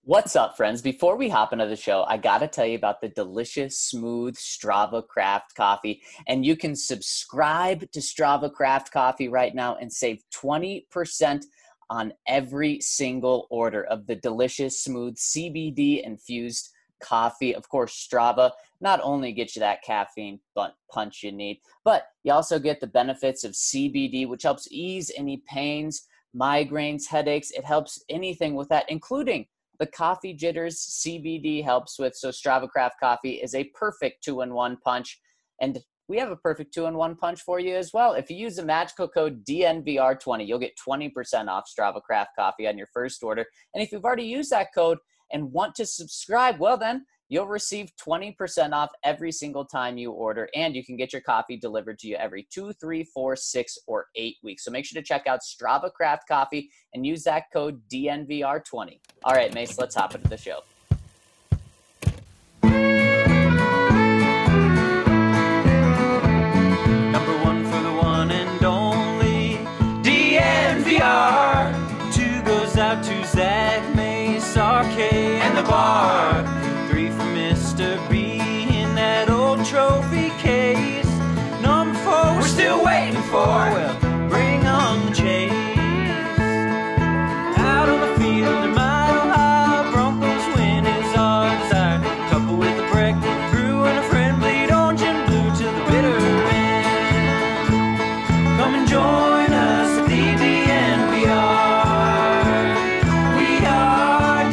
What's up, friends? Before we hop into the show, I got to tell you about the delicious, smooth Strava Craft coffee. And you can subscribe to Strava Craft coffee right now and save 20% on every single order of the delicious, smooth CBD infused coffee. Of course, Strava not only gets you that caffeine punch you need, but you also get the benefits of CBD, which helps ease any pains, migraines, headaches. It helps anything with that, including the coffee jitters CBD helps with. So Strava Craft coffee is a perfect two-in-one punch. And we have a perfect two-in-one punch for you as well. If you use the magical code DNVR20, you'll get 20% off Strava Craft coffee on your first order. And if you've already used that code and want to subscribe, well then, you'll receive 20% off every single time you order, and you can get your coffee delivered to you every 2, 3, 4, 6, or 8 weeks. So make sure to check out Strava Craft Coffee and use that code DNVR20. All right, Mace, let's hop into the show. Number one for the one and only DNVR. Two goes out to Zach, Mace, RK, and the bar. Three for Mr. B in that old trophy case. Number four, we're still waiting for. Well, bring on the chase. Out on the field, a mile high, Broncos win is our desire. Couple with a breakfast brew and a friend bleed orange and blue to the bitter end. Come and join us at the DNVR. We are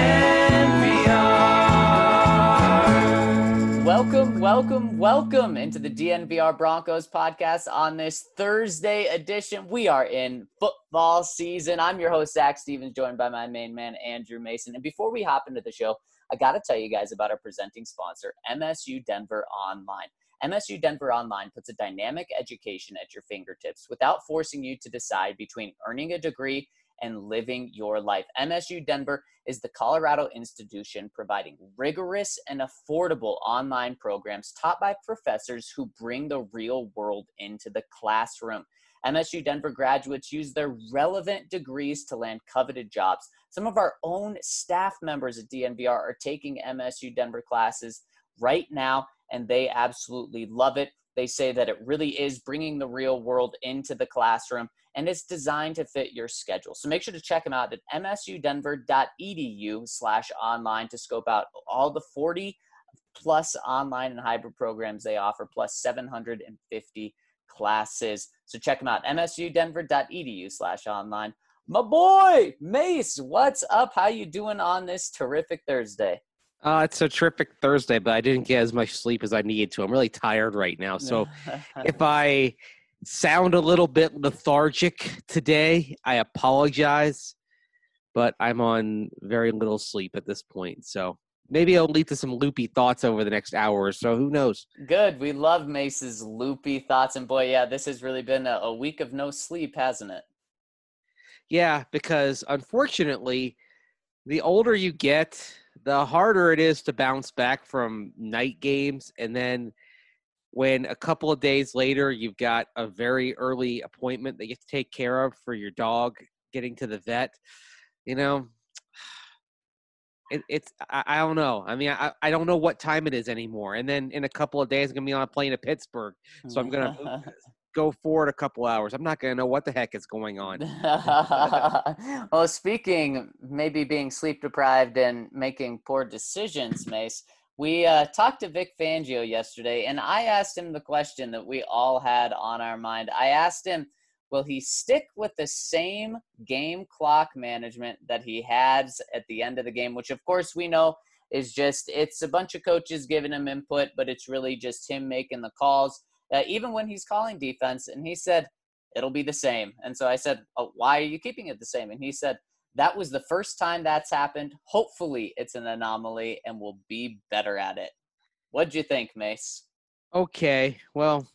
DNVR. Welcome into the DNVR Broncos podcast on this Thursday edition. We are in football season. I'm your host, Zach Stevens, joined by my main man, Andrew Mason. And before we hop into the show, I got to tell you guys about our presenting sponsor, MSU Denver Online. MSU Denver Online puts a dynamic education at your fingertips without forcing you to decide between earning a degree and living your life. MSU Denver is the Colorado institution providing rigorous and affordable online programs taught by professors who bring the real world into the classroom. MSU Denver graduates use their relevant degrees to land coveted jobs. Some of our own staff members at DNVR are taking MSU Denver classes right now, and they absolutely love it. They say that it really is bringing the real world into the classroom, and it's designed to fit your schedule. So make sure to check them out at msudenver.edu/online to scope out all the 40 plus online and hybrid programs they offer, plus 750 classes. So check them out, msudenver.edu/online. My boy, Mace, what's up? How you doing on this terrific Thursday? It's a terrific Thursday, but I didn't get as much sleep as I needed to. I'm really tired right now. So if I sound a little bit lethargic today, I apologize, but I'm on very little sleep at this point. So maybe I'll lead to some loopy thoughts over the next hour or so. Who knows? Good. We love Mace's loopy thoughts. And boy, yeah, this has really been a week of no sleep, hasn't it? Yeah, because unfortunately, the older you get, the harder it is to bounce back from night games. And then when a couple of days later, you've got a very early appointment that you have to take care of for your dog getting to the vet, you know, I don't know. I mean, I don't know what time it is anymore. And then in a couple of days, I'm going to be on a plane to Pittsburgh. So I'm going to go forward a couple hours. I'm not going to know what the heck is going on. Well, speaking maybe being sleep deprived and making poor decisions, Mace, we talked to Vic Fangio yesterday, and I asked him the question that we all had on our mind. I asked him, will he stick with the same game clock management that he has at the end of the game, which of course we know is just, it's a bunch of coaches giving him input, but it's really just him making the calls. Even when he's calling defense, and he said, it'll be the same. And so I said, oh, why are you keeping it the same? And he said, that was the first time that's happened. Hopefully it's an anomaly and we'll be better at it. What'd you think, Mace? Okay, well,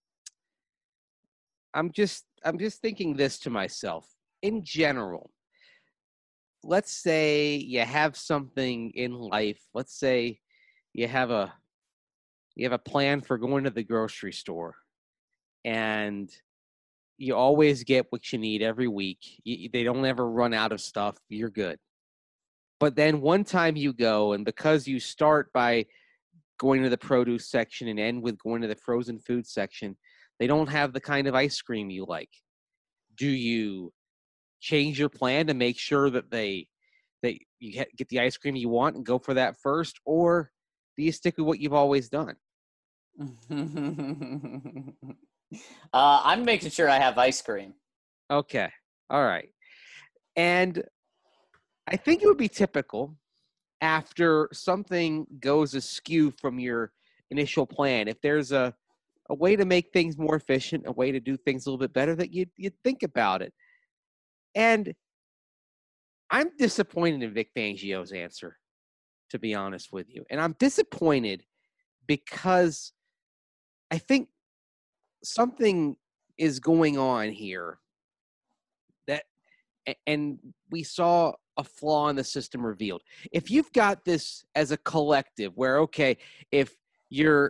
I'm just thinking this to myself. In general, let's say you have something in life. Let's say you have a plan for going to the grocery store, and you always get what you need every week. They don't ever run out of stuff. You're good. But then one time you go, and because you start by going to the produce section and end with going to the frozen food section, they don't have the kind of ice cream you like. Do you change your plan to make sure that you get the ice cream you want and go for that first, or do you stick with what you've always done? I'm making sure I have ice cream. Okay. All right. And I think it would be typical after something goes askew from your initial plan, if there's a way to make things more efficient, a way to do things a little bit better, that you'd think about it. And I'm disappointed in Vic Fangio's answer, to be honest with you. And I'm disappointed because I think something is going on here that, and we saw a flaw in the system revealed. If you've got this as a collective where, okay, if you're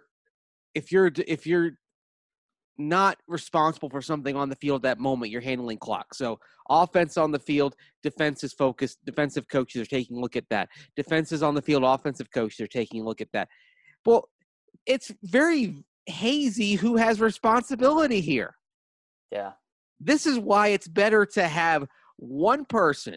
not responsible for something on the field at that moment, you're handling clock. So offense on the field, defense is focused. Defensive coaches are taking a look at that. Defense is on the field, offensive coaches are taking a look at that. Well, it's very hazy who has responsibility here. Yeah. This is why it's better to have one person.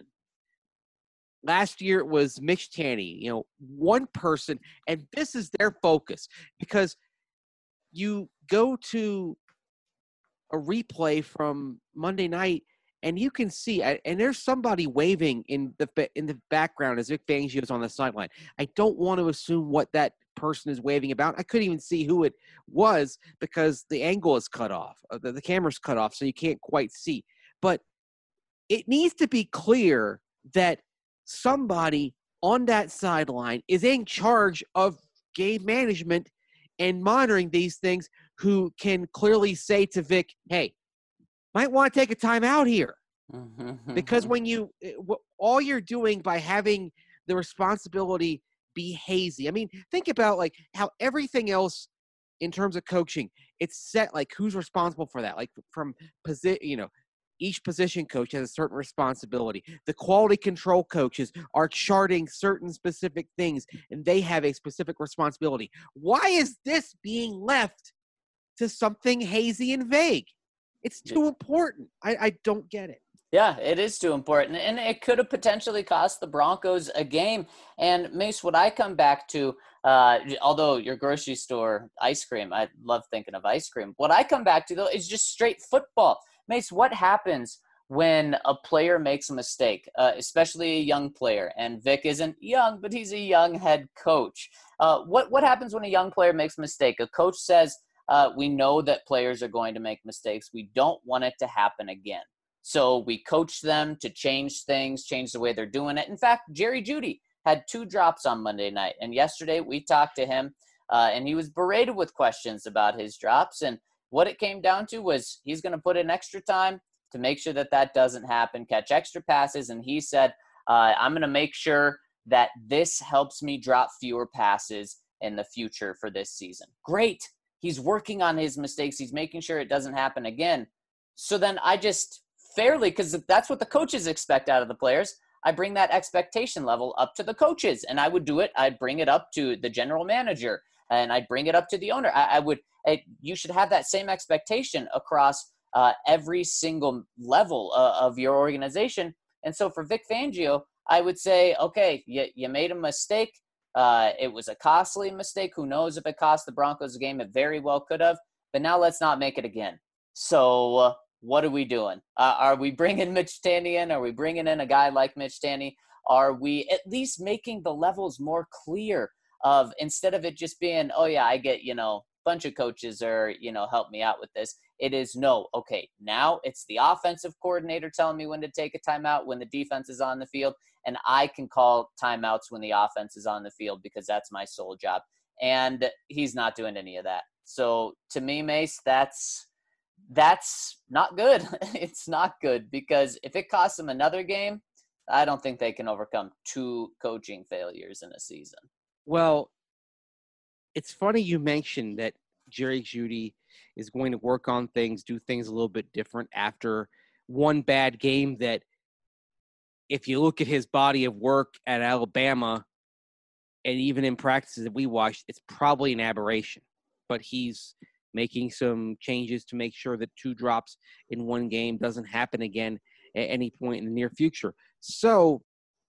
Last year it was Mitch Tanny, one person, and this is their focus, because you go to a replay from Monday night and you can see, and there's somebody waving in the background as Vic Fangio is on the sideline. I don't want to assume what that person is waving about. I couldn't even see who it was because the angle is cut off. The camera's cut off, so you can't quite see. But it needs to be clear that somebody on that sideline is in charge of game management and monitoring these things, who can clearly say to Vic, hey, might want to take a timeout here. Because when all you're doing by having the responsibility be hazy. I mean, think about like how everything else in terms of coaching, it's set like who's responsible for that. Like from each position coach has a certain responsibility. The quality control coaches are charting certain specific things, and they have a specific responsibility. Why is this being left to something hazy and vague? It's too important. I don't get it. Yeah, it is too important. And it could have potentially cost the Broncos a game. And Mace, what I come back to, although your grocery store ice cream, I love thinking of ice cream. What I come back to, though, is just straight football. Mace, what happens when a player makes a mistake, especially a young player? And Vic isn't young, but he's a young head coach. What happens when a young player makes a mistake? A coach says, we know that players are going to make mistakes. We don't want it to happen again. So we coach them to change things, change the way they're doing it. In fact, Jerry Jeudy had 2 drops on Monday night. And yesterday we talked to him, and he was berated with questions about his drops. And what it came down to was he's going to put in extra time to make sure that doesn't happen, catch extra passes. And he said, I'm going to make sure that this helps me drop fewer passes in the future for this season. Great. He's working on his mistakes. He's making sure it doesn't happen again. So then I just fairly, because that's what the coaches expect out of the players, I bring that expectation level up to the coaches. And I would do it. I'd bring it up to the general manager, and I'd bring it up to the owner. You should have that same expectation across every single level of your organization. And so for Vic Fangio, I would say, okay, you made a mistake. It was a costly mistake. Who knows if it cost the Broncos a game? It very well could have. But now let's not make it again. So what are we doing? Are we bringing Mitch Tanny in? Are we bringing in a guy like Mitch Tanny? Are we at least making the levels more clear of, instead of it just being, oh yeah, I get, bunch of coaches are, help me out with this. It is no, okay, now it's the offensive coordinator telling me when to take a timeout when the defense is on the field, and I can call timeouts when the offense is on the field because that's my sole job. And he's not doing any of that. So to me, Mace, that's not good. It's not good, because if it costs them another game, I don't think they can overcome 2 coaching failures in a season. Well, it's funny you mentioned that Jerry Jeudy is going to work on things, do things a little bit different after one bad game that if you look at his body of work at Alabama and even in practices that we watched, it's probably an aberration. But he's making some changes to make sure that 2 drops in one game doesn't happen again at any point in the near future. So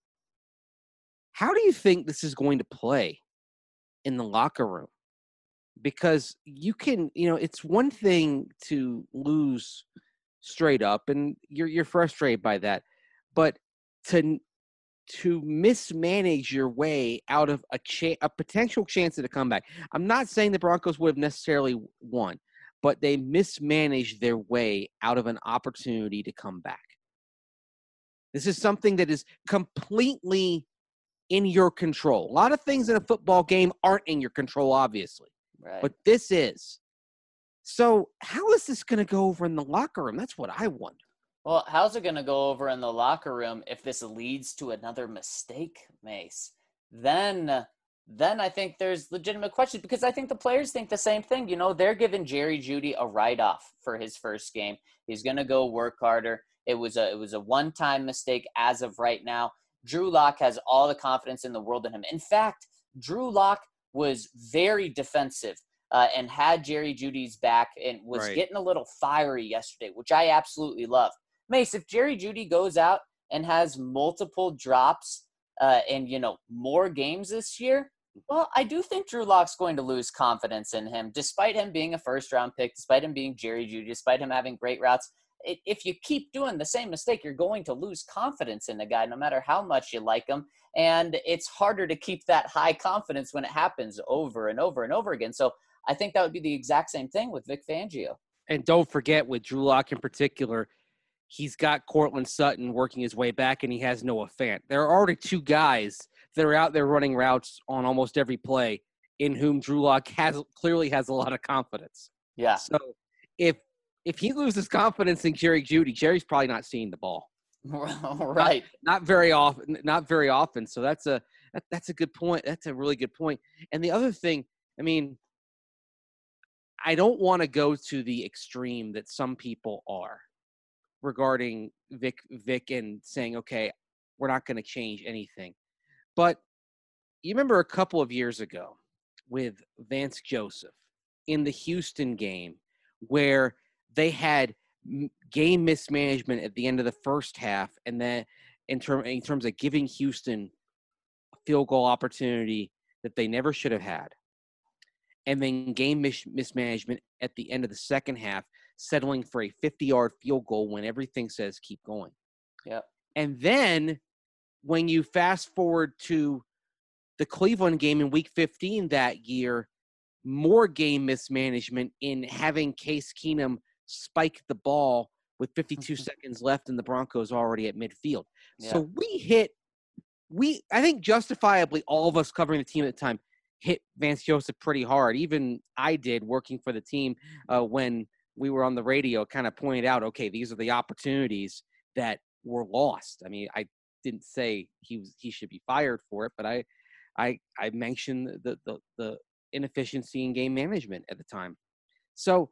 how do you think this is going to play in the locker room? Because you can, it's one thing to lose straight up, and you're frustrated by that, but to mismanage your way out of a potential chance at a comeback. I'm not saying the Broncos would have necessarily won, but they mismanaged their way out of an opportunity to come back. This is something that is completely in your control. A lot of things in a football game aren't in your control, obviously. Right. But this is. So how is this going to go over in the locker room? That's what I wonder. Well, how's it going to go over in the locker room if this leads to another mistake, Mace? Then I think there's legitimate questions, because I think the players think the same thing. They're giving Jerry Jeudy a write-off for his first game. He's going to go work harder. It was a one-time mistake as of right now. Drew Lock has all the confidence in the world in him. In fact, Drew Lock was very defensive and had Jerry Jeudy's back and was getting a little fiery yesterday, which I absolutely love. Mace, if Jerry Jeudy goes out and has multiple drops and, more games this year, well, I do think Drew Lock's going to lose confidence in him, despite him being a first-round pick, despite him being Jerry Jeudy, despite him having great routes. If you keep doing the same mistake, you're going to lose confidence in the guy, no matter how much you like him. And it's harder to keep that high confidence when it happens over and over and over again. So I think that would be the exact same thing with Vic Fangio. And don't forget, with Drew Lock in particular, he's got Cortland Sutton working his way back, and he has Noah Fant. There are already 2 guys that are out there running routes on almost every play in whom Drew Lock clearly has a lot of confidence. Yeah. So if he loses confidence in Jerry Jeudy, Jerry's probably not seeing the ball. Right. Not very often. So that's a good point. That's a really good point. And the other thing, I don't want to go to the extreme that some people are regarding Vic and saying, okay, we're not going to change anything. But you remember a couple of years ago with Vance Joseph in the Houston game where they had game mismanagement at the end of the first half, and then in terms of giving Houston a field goal opportunity that they never should have had, and then game mismanagement at the end of the second half, settling for a 50-yard field goal when everything says keep going. Yeah. And then when you fast forward to the Cleveland game in Week 15 that year, more game mismanagement in having Case Keenum spike the ball with 52 seconds left and the Broncos already at midfield. Yeah. So I think justifiably, all of us covering the team at the time hit Vance Joseph pretty hard. Even I did, working for the team when we were on the radio, kind of pointed out, okay, these are the opportunities that were lost. I didn't say he should be fired for it, but I mentioned the inefficiency in game management at the time. So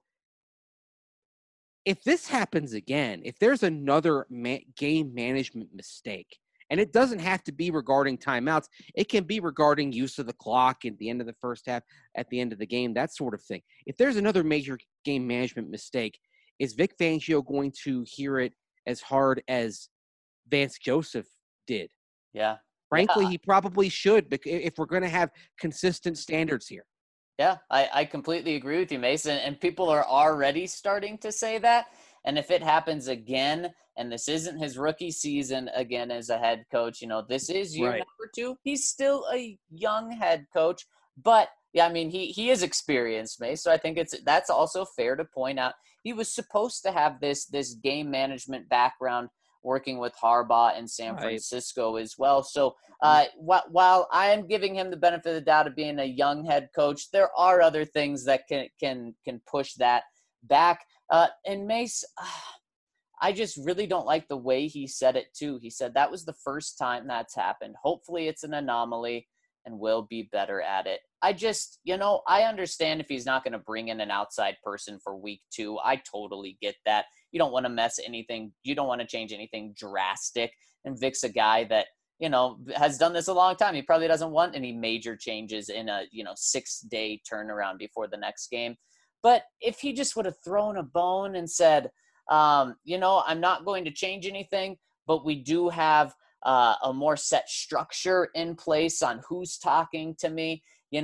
if this happens again, if there's another game management mistake, and it doesn't have to be regarding timeouts, it can be regarding use of the clock at the end of the first half, at the end of the game, that sort of thing. If there's another major game management mistake, is Vic Fangio going to hear it as hard as Vance Joseph did? Yeah. Frankly, he probably should, if we're going to have consistent standards here. Yeah, I completely agree with you, Mason. And people are already starting to say that. And if it happens again, and this isn't his rookie season again as a head coach, this is year number 2. He's still a young head coach. But, yeah, he is experienced, Mason. So I think that's also fair to point out. He was supposed to have this game management background working with Harbaugh in San Francisco as well. So while I am giving him the benefit of the doubt of being a young head coach, there are other things that can push that back. And Mace, I just really don't like the way he said it too. He said that was the first time that's happened. Hopefully it's an anomaly and we'll be better at it. I just, I understand if he's not going to bring in an outside person for week 2. I totally get that. You don't want to mess anything. You don't want to change anything drastic And Vic's a guy that, has done this a long time. He probably doesn't want any major changes in a, 6-day turnaround before the next game. But if he just would have thrown a bone and said, I'm not going to change anything, but we do have a more set structure in place on who's talking to me.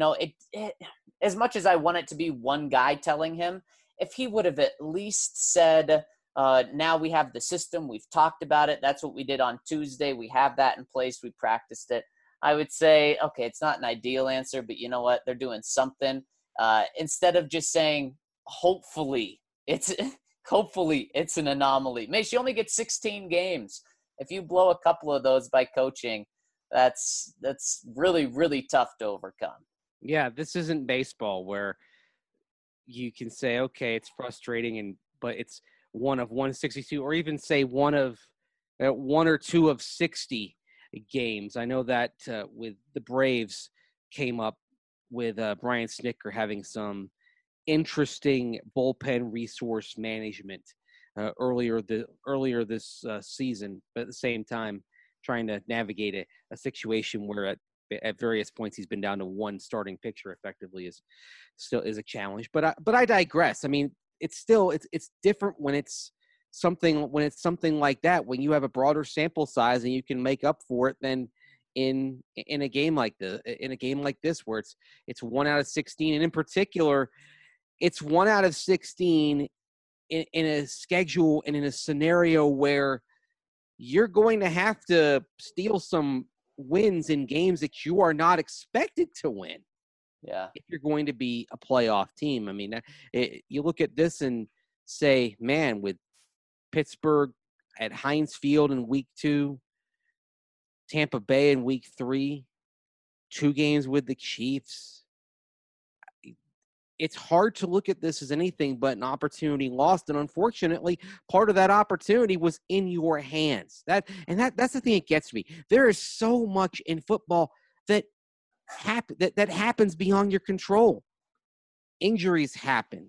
As much as I want it to be one guy telling him, if he would have at least said, now we have the system, we've talked about it, that's what we did on Tuesday, we have that in place, we practiced it, I would say, okay, it's not an ideal answer, but you know what, they're doing something. Instead of just saying, hopefully it's an anomaly. Mace, you only get 16 games. If you blow a couple of those by coaching, that's really, really tough to overcome. Yeah, this isn't baseball where you can say, okay, it's frustrating, but it's one of 162, or even say one or two of 60 games. I know that with the Braves came up with Brian Snitker having some interesting bullpen resource management earlier this season, but at the same time trying to navigate a situation where at various points he's been down to one starting pitcher effectively is a challenge. But I digress. I mean, it's different when it's something like that, when you have a broader sample size and you can make up for it than in a game like this where it's 1 out of 16, and in particular it's 1 out of 16 in a schedule and in a scenario where you're going to have to steal some wins in games that you are not expected to win. Yeah. If you're going to be a playoff team. I mean, you look at this and say, man, with Pittsburgh at Heinz Field in week 2, Tampa Bay in week 3, 2 games with the Chiefs, it's hard to look at this as anything but an opportunity lost. And unfortunately, part of that opportunity was in your hands. That's the thing that gets me. There is so much in football that happens beyond your control. Injuries happen.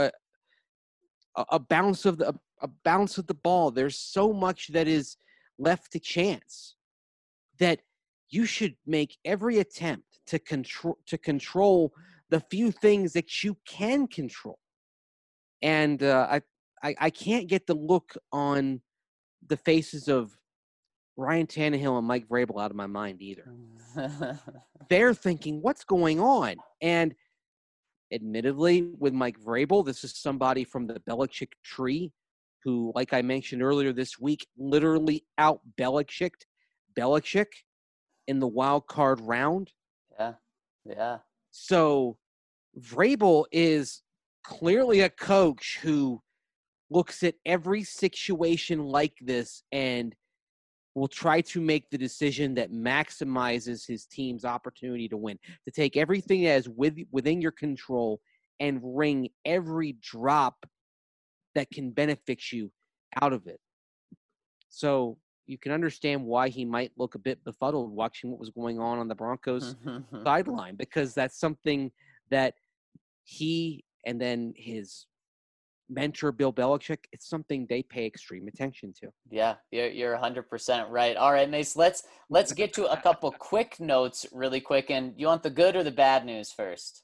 A bounce of the ball. There's so much that is left to chance that you should make every attempt to control the few things that you can control. And I can't get the look on the faces of Ryan Tannehill and Mike Vrabel out of my mind either. They're thinking, what's going on? And admittedly, with Mike Vrabel, this is somebody from the Belichick tree who, like I mentioned earlier this week, literally out-Belichicked Belichick in the wild card round. Yeah. So Vrabel is clearly a coach who looks at every situation like this and will try to make the decision that maximizes his team's opportunity to win, to take everything that is within your control and wring every drop that can benefit you out of it. So you can understand why he might look a bit befuddled watching what was going on the Broncos sideline, because that's something that he and then his mentor, Bill Belichick, it's something they pay extreme attention to. Yeah, you're 100% right. All right, Mace, let's get to a couple quick notes really quick. And you want the good or the bad news first?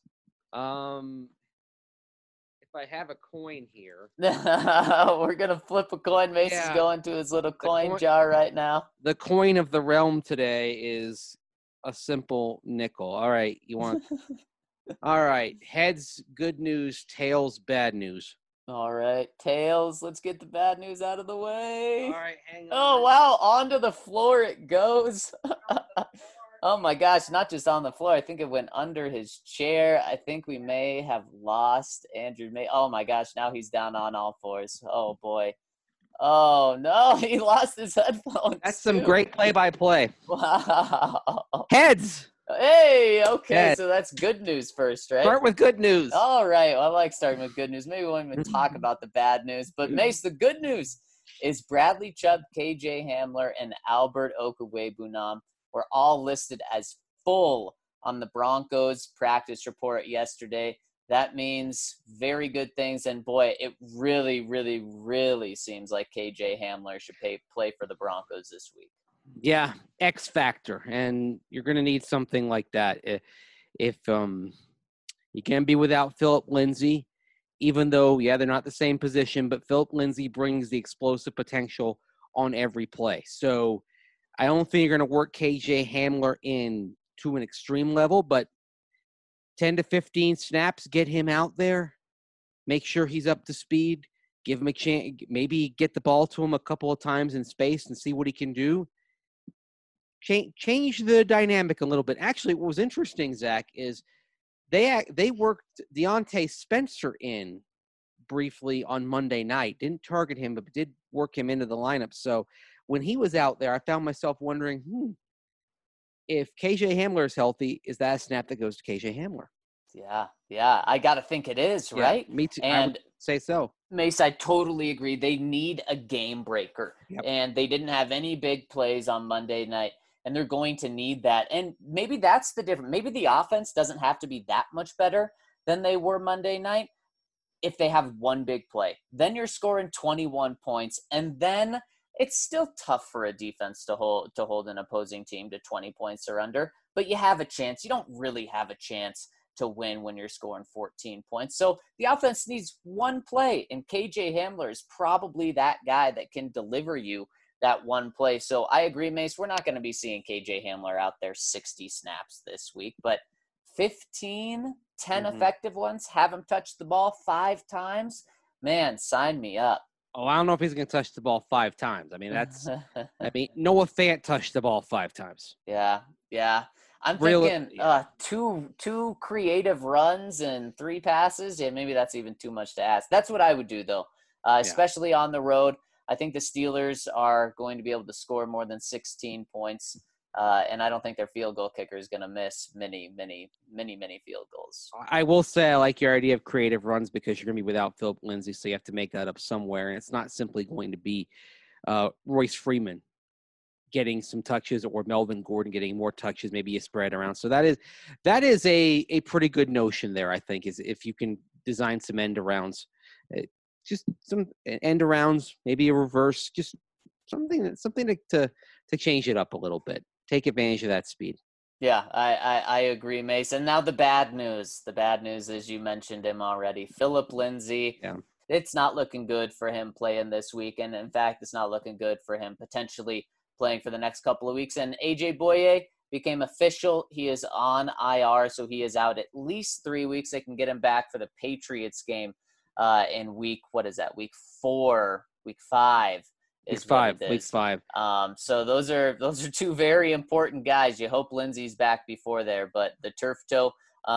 If I have a coin here. We're going to flip a coin. Mace is going to his little coin jar right now. The coin of the realm today is a simple nickel. All right, you want – all right, heads, good news, tails, bad news. All right, tails, let's get the bad news out of the way. All right, hang on. Oh, wow, onto the floor it goes. Oh, my gosh, not just on the floor. I think it went under his chair. I think we may have lost Andrew May. Oh, my gosh, now he's down on all fours. Oh, boy. Oh, no, he lost his headphones. That's some great play-by-play. Wow. Heads. Hey, okay, Heads. So that's good news first, right? Start with good news. All right, well, I like starting with good news. Maybe we won't even talk about the bad news. But, Mace, the good news is Bradley Chubb, KJ Hamler, and Albert Okwuegbunam were all listed as full on the Broncos practice report yesterday. That means very good things. And, boy, it really, really, really seems like KJ Hamler should play for the Broncos this week. Yeah, X factor, and you're going to need something like that. If you can be without Philip Lindsay, even though they're not the same position, but Philip Lindsay brings the explosive potential on every play. So I don't think you're going to work KJ Hamler in to an extreme level, but 10 to 15 snaps, get him out there, make sure he's up to speed, give him a chance, maybe get the ball to him a couple of times in space and see what he can do. Change the dynamic a little bit. Actually, what was interesting, Zach, is they worked Deontay Spencer in briefly on Monday night. Didn't target him, but did work him into the lineup. So when he was out there, I found myself wondering, if KJ Hamler is healthy, is that a snap that goes to KJ Hamler? Yeah. I got to think it is, right? Yeah, me too. And I would say so. Mace, I totally agree. They need a game breaker. Yep. And they didn't have any big plays on Monday night, and they're going to need that. And maybe that's the difference. Maybe the offense doesn't have to be that much better than they were Monday night if they have one big play. Then you're scoring 21 points, and then it's still tough for a defense to hold an opposing team to 20 points or under, but you have a chance. You don't really have a chance to win when you're scoring 14 points. So the offense needs one play, and KJ Hamler is probably that guy that can deliver you that one play. So I agree, Mace, we're not going to be seeing KJ Hamler out there 60 snaps this week, but 10 effective ones, have him touch the ball 5 times. Man, sign me up. Oh, I don't know if he's going to touch the ball 5 times. I mean, Noah Fant touched the ball 5 times. Yeah. I'm thinking two creative runs and 3 passes. Yeah, maybe that's even too much to ask. That's what I would do, though, especially on the road. I think the Steelers are going to be able to score more than 16 points, and I don't think their field goal kicker is going to miss many field goals. I will say I like your idea of creative runs because you're going to be without Philip Lindsay, so you have to make that up somewhere, and it's not simply going to be Royce Freeman getting some touches or Melvin Gordon getting more touches, maybe a spread around. So that is a pretty good notion there, I think, is if you can design some end arounds, just some end arounds, maybe a reverse, just something to change it up a little bit. Take advantage of that speed. Yeah, I agree, Mason. Now the bad news. The bad news is you mentioned him already. Philip Lindsay. Yeah. It's not looking good for him playing this week. And in fact, it's not looking good for him potentially playing for the next couple of weeks. And AJ Boye became official. He is on IR, so he is out at least 3 weeks. They can get him back for the Patriots game in week 5. Week 5. Week 5. So those are 2 very important guys. You hope Lindsay's back before there, but the turf toe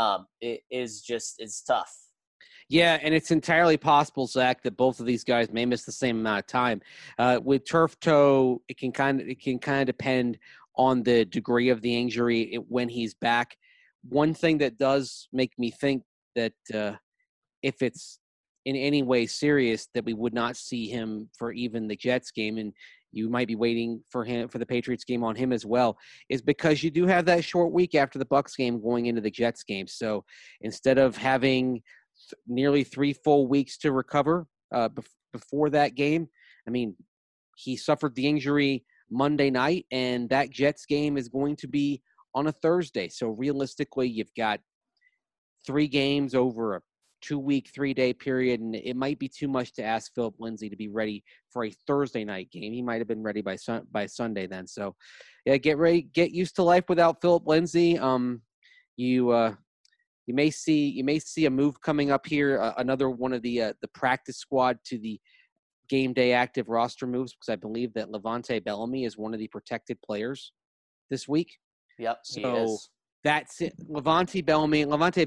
is tough. Yeah, and it's entirely possible, Zach, that both of these guys may miss the same amount of time. With turf toe, it can kind of depend on the degree of the injury when he's back. One thing that does make me think that if it's in any way serious, that we would not see him for even the Jets game, and you might be waiting for the Patriots game on him as well, is because you do have that short week after the Bucs game going into the Jets game. So instead of having nearly 3 full weeks to recover before that game, I mean, he suffered the injury Monday night, and that Jets game is going to be on a Thursday. So realistically, you've got 3 games over a 2-week, 3-day period, and it might be too much to ask Philip Lindsay to be ready for a Thursday night game. He might have been ready by Sunday then. So, yeah, get used to life without Philip Lindsay. You may see a move coming up here, another one of the practice squad to the game day active roster moves, because I believe that Levante Bellamy is one of the protected players this week. Yep, so he is. That's it. Levante Bellamy,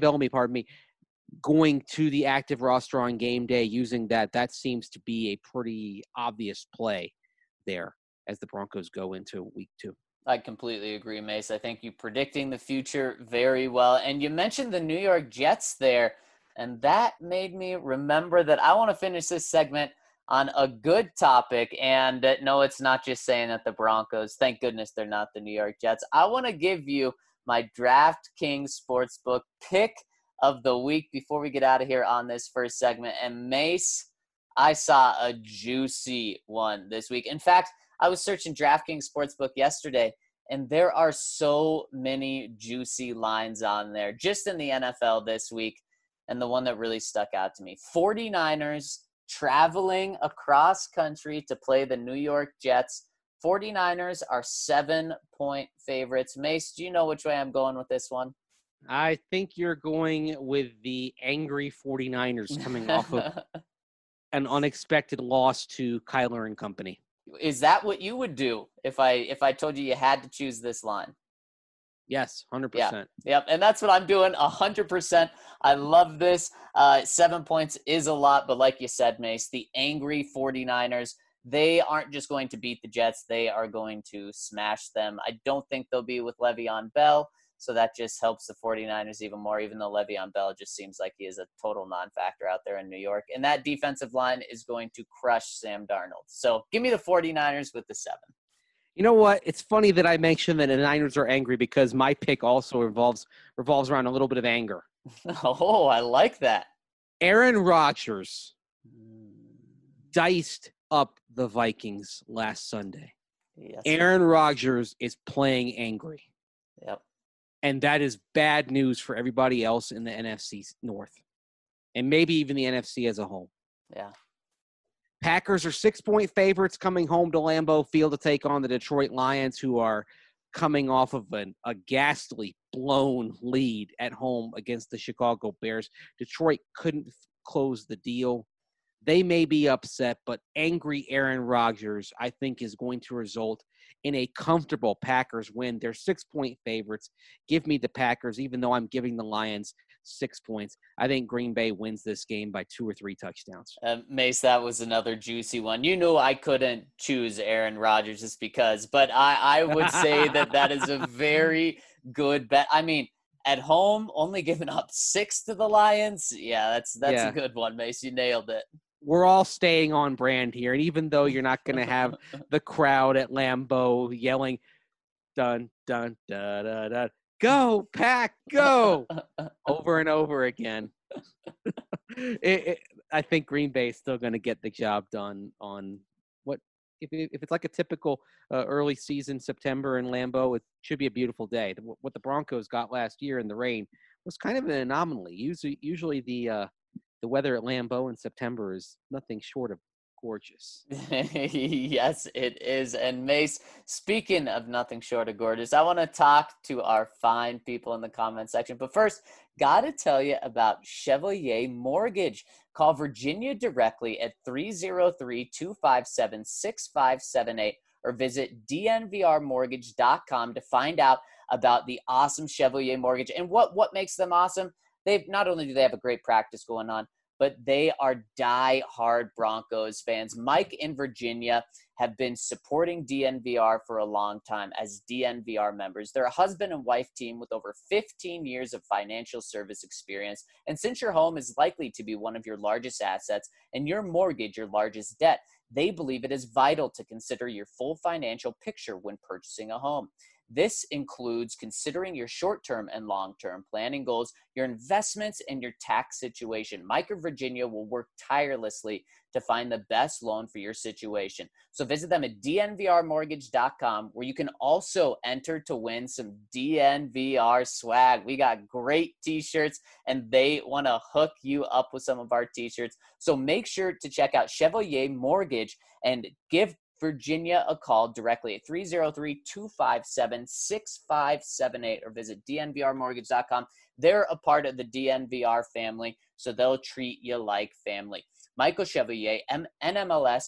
going to the active roster on game day using that seems to be a pretty obvious play there as the Broncos go into week 2. I completely agree, Mace. I think you're predicting the future very well. And you mentioned the New York Jets there, and that made me remember that I want to finish this segment on a good topic. And no, it's not just saying that the Broncos, thank goodness they're not the New York Jets. I want to give you my DraftKings Sportsbook pick of the week before we get out of here on this first segment. And Mace, I saw a juicy one this week. In fact, I was searching DraftKings Sportsbook yesterday, and there are so many juicy lines on there just in the NFL this week. And the one that really stuck out to me, 49ers traveling across country to play the New York Jets. 49ers are 7-point favorites. Mace, do you know which way I'm going with this one? I think you're going with the angry 49ers coming off of an unexpected loss to Kyler and company. Is that what you would do if I told you had to choose this line? Yes, 100%. Yeah, yep, and that's what I'm doing, 100%. I love this. 7 points is a lot, but like you said, Mace, the angry 49ers, they aren't just going to beat the Jets. They are going to smash them. I don't think they'll be with Le'Veon Bell, so that just helps the 49ers even more, even though Le'Veon Bell just seems like he is a total non-factor out there in New York. And that defensive line is going to crush Sam Darnold. So give me the 49ers with the 7. You know what? It's funny that I mentioned that the Niners are angry because my pick also revolves around a little bit of anger. Oh, I like that. Aaron Rodgers diced up the Vikings last Sunday. Yes. Aaron Rodgers is playing angry. Yep. And that is bad news for everybody else in the NFC North. And maybe even the NFC as a whole. Yeah. Packers are 6-point favorites coming home to Lambeau Field to take on the Detroit Lions, who are coming off of a ghastly blown lead at home against the Chicago Bears. Detroit couldn't close the deal. They may be upset, but angry Aaron Rodgers, I think, is going to result in a comfortable Packers win. They're 6-point favorites. Give me the Packers, even though I'm giving the Lions 6 points. I think Green Bay wins this game by 2 or 3 touchdowns. Mace, that was another juicy one. You knew I couldn't choose Aaron Rodgers just because, but I would say that is a very good bet. I mean, at home, only giving up 6 to the Lions. Yeah, that's a good one, Mace. You nailed it. We're all staying on brand here. And even though you're not going to have the crowd at Lambeau yelling, dun, dun, da, da, da, go, Pack, go, over and over again. I think Green Bay is still going to get the job done on what, if it's like a typical early season September in Lambeau, it should be a beautiful day. What the Broncos got last year in the rain was kind of an anomaly. Usually the weather at Lambeau in September is nothing short of gorgeous. Yes, it is. And Mace, speaking of nothing short of gorgeous, I want to talk to our fine people in the comment section. But first, got to tell you about Chevalier Mortgage. Call Virginia directly at 303-257-6578 or visit dnvrmortgage.com to find out about the awesome Chevalier Mortgage. And what makes them awesome? Not only do they have a great practice going on, but they are die-hard Broncos fans. Mike in Virginia have been supporting DNVR for a long time as DNVR members. They're a husband and wife team with over 15 years of financial service experience. And since your home is likely to be one of your largest assets and your mortgage your largest debt, they believe it is vital to consider your full financial picture when purchasing a home. This includes considering your short-term and long-term planning goals, your investments, and your tax situation. Mike of Virginia will work tirelessly to find the best loan for your situation. So visit them at dnvrmortgage.com, where you can also enter to win some DNVR swag. We got great t-shirts, and they want to hook you up with some of our t-shirts. So make sure to check out Chevalier Mortgage and give Virginia a call directly at 303-257-6578 or visit dnvrmortgage.com. They're a part of the DNVR family, so they'll treat you like family. Michael Chevalier, NMLS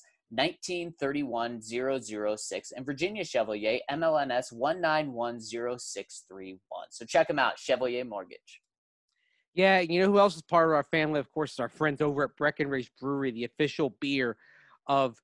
1931006, and Virginia Chevalier, MLNS 1910631. So check them out, Chevalier Mortgage. Yeah, you know who else is part of our family? Of course, our friends over at Breckenridge Brewery, the official beer of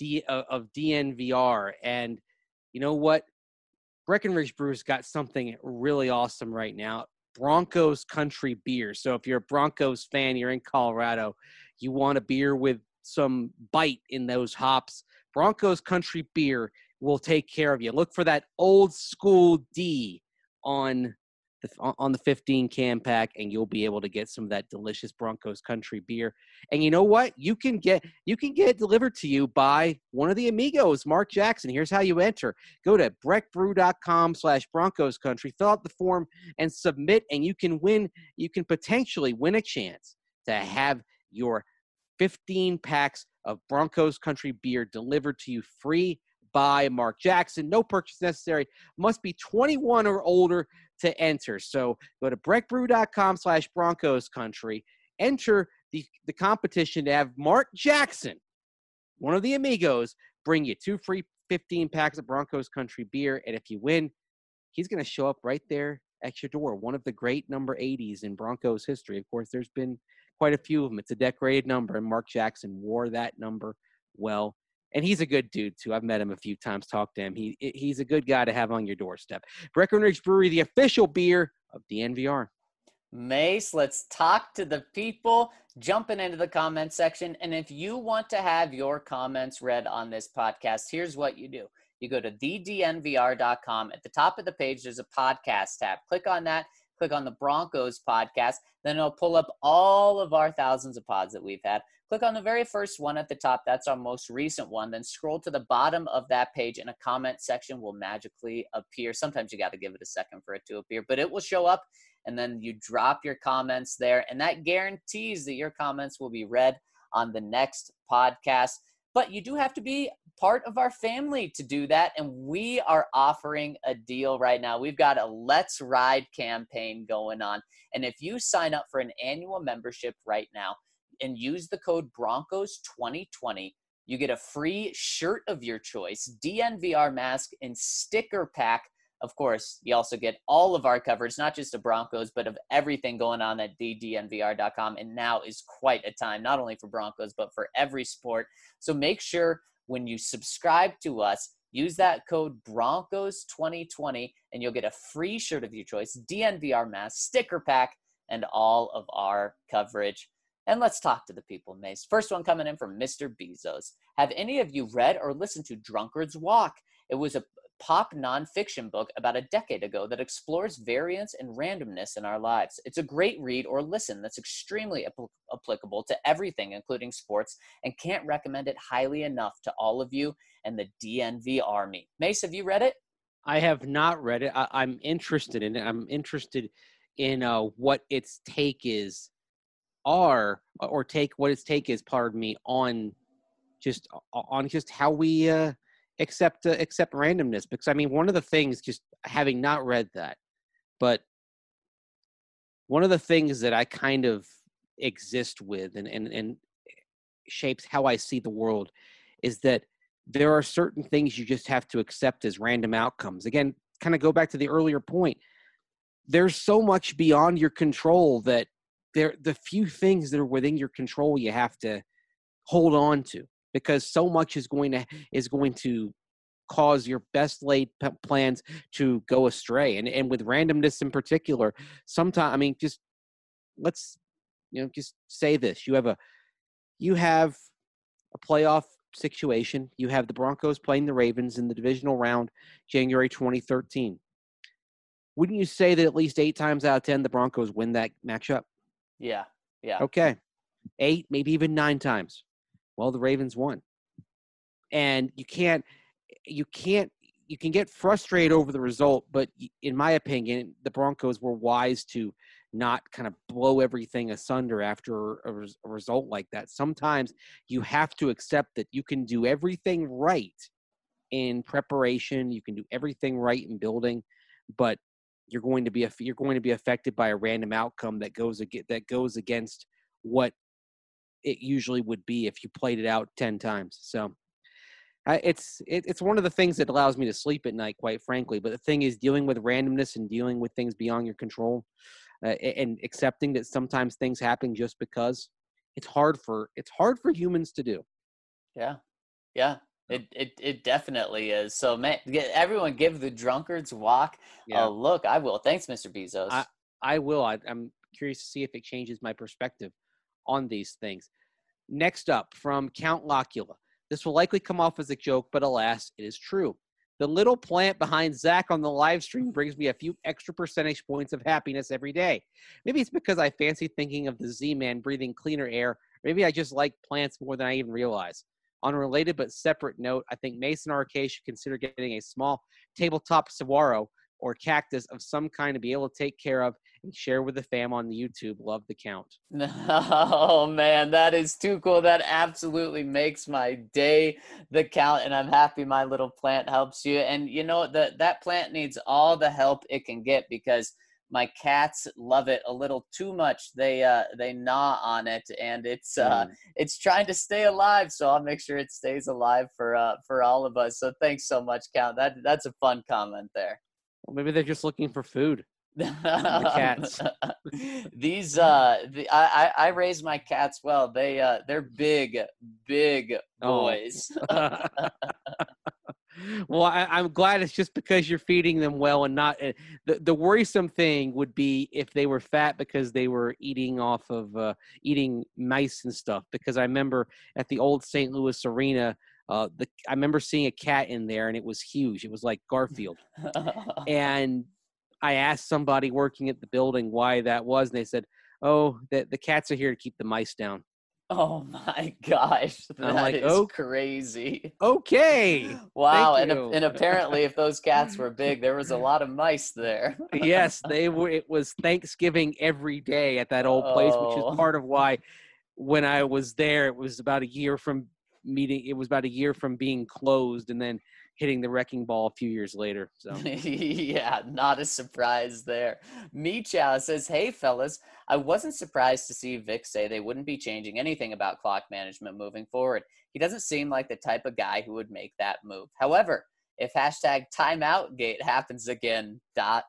DNVR. And you know what? Breckenridge Brew's got something really awesome right now. Broncos Country Beer. So if you're a Broncos fan, you're in Colorado, you want a beer with some bite in those hops, Broncos Country Beer will take care of you. Look for that old school D on on the 15 can pack, and you'll be able to get some of that delicious Broncos Country beer. And you know what? You can get it delivered to you by one of the amigos, Mark Jackson. Here's how you enter. Go to breckbrew.com/Broncos Country, fill out the form and submit, and you can potentially win a chance to have your 15 packs of Broncos Country beer delivered to you free by Mark Jackson. No purchase necessary. Must be 21 or older to enter. So go to breckbrew.com/Broncos Country. Enter the competition to have Mark Jackson, one of the amigos, bring you 2 free 15 packs of Broncos Country beer. And if you win, he's going to show up right there at your door. One of the great number 80s in Broncos history. Of course, there's been quite a few of them. It's a decorated number, and Mark Jackson wore that number well. And he's a good dude, too. I've met him a few times, talked to him. He's a good guy to have on your doorstep. Breckenridge Brewery, the official beer of DNVR. Mace, let's talk to the people jumping into the comment section. And if you want to have your comments read on this podcast, here's what you do. You go to thednvr.com. At the top of the page, there's a podcast tab. Click on that. Click on the Broncos podcast. Then it'll pull up all of our thousands of pods that we've had. Click on the very first one at the top. That's our most recent one. Then scroll to the bottom of that page, and a comment section will magically appear. Sometimes you got to give it a second for it to appear, but it will show up, and then you drop your comments there, and that guarantees that your comments will be read on the next podcast. But you do have to be part of our family to do that, and we are offering a deal right now. We've got a Let's Ride campaign going on, and if you sign up for an annual membership right now and use the code Broncos2020, you get a free shirt of your choice, DNVR mask, and sticker pack. Of course, you also get all of our coverage, not just of Broncos, but of everything going on at thednvr.com. And now is quite a time, not only for Broncos, but for every sport. So make sure when you subscribe to us, use that code Broncos2020, and you'll get a free shirt of your choice, DNVR mask, sticker pack, and all of our coverage. And let's talk to the people, Mace. First one coming in from Mr. Bezos. Have any of you read or listened to Drunkard's Walk? It was a pop nonfiction book about a decade ago that explores variance and randomness in our lives. It's a great read or listen that's extremely applicable to everything, including sports, and can't recommend it highly enough to all of you and the DNV Army. Mace, have you read it? I have not read it. I'm interested in it. I'm interested in what its take is, what its take is, pardon me, on just how we accept randomness. Because I mean, one of the things, just having not read that, but one of the things that I kind of exist with and shapes how I see the world is that there are certain things you just have to accept as random outcomes. Again, kind of go back to the earlier point. There's so much beyond your control that the few things that are within your control you have to hold on to, because so much is going to cause your best laid plans to go astray. And with randomness in particular, sometimes, I mean, just let's, just say this. You have a playoff situation. You have the Broncos playing the Ravens in the divisional round, January 2013. Wouldn't you say that at least 8 times out of 10, the Broncos win that matchup? Yeah. Okay. 8, maybe even 9 times. Well, the Ravens won. And you can get frustrated over the result, but in my opinion, the Broncos were wise to not kind of blow everything asunder after a result like that. Sometimes you have to accept that you can do everything right in preparation, you can do everything right in building, but you're going to be affected by a random outcome that goes against what it usually would be if you played it out 10 times. So it's one of the things that allows me to sleep at night, quite frankly. But the thing is, dealing with randomness and dealing with things beyond your control, and accepting that sometimes things happen just because it's hard for humans to do. Yeah. It definitely is. So, man, everyone give the Drunkard's Walk a look. I will. Thanks, Mr. Bezos. I will. I'm curious to see if it changes my perspective on these things. Next up, from Count Locula. This will likely come off as a joke, but alas, it is true. The little plant behind Zach on the live stream brings me a few extra percentage points of happiness every day. Maybe it's because I fancy thinking of the Z-Man breathing cleaner air. Maybe I just like plants more than I even realize. On a related but separate note, I think Mason RK should consider getting a small tabletop saguaro or cactus of some kind to be able to take care of and share with the fam on the YouTube. Love the count. Oh man, that is too cool. That absolutely makes my day, the count, and I'm happy my little plant helps you. And you know that plant needs all the help it can get because my cats love it a little too much. They gnaw on it, and it's trying to stay alive. So I'll make sure it stays alive for all of us. So thanks so much, Count. That's a fun comment there. Well, maybe they're just looking for food. The cats. I raise my cats well. They're big boys. Oh. Well, I'm glad it's just because you're feeding them well and not the worrisome thing would be if they were fat because they were eating off of eating mice and stuff. Because I remember at the old St. Louis Arena, I remember seeing a cat in there and it was huge. It was like Garfield. And I asked somebody working at the building why that was, and they said, "Oh, the cats are here to keep the mice down." Oh my gosh, that is crazy. Okay. Wow, and apparently, if those cats were big, there was a lot of mice there. Yes, they were. It was Thanksgiving every day at that old place, which is part of why when I was there, it was about a year from being closed, and then hitting the wrecking ball a few years later. So yeah, not a surprise there. Meechow says, "Hey fellas, I wasn't surprised to see Vic say they wouldn't be changing anything about clock management moving forward. He doesn't seem like the type of guy who would make that move. However, if #timeoutgate happens again, ...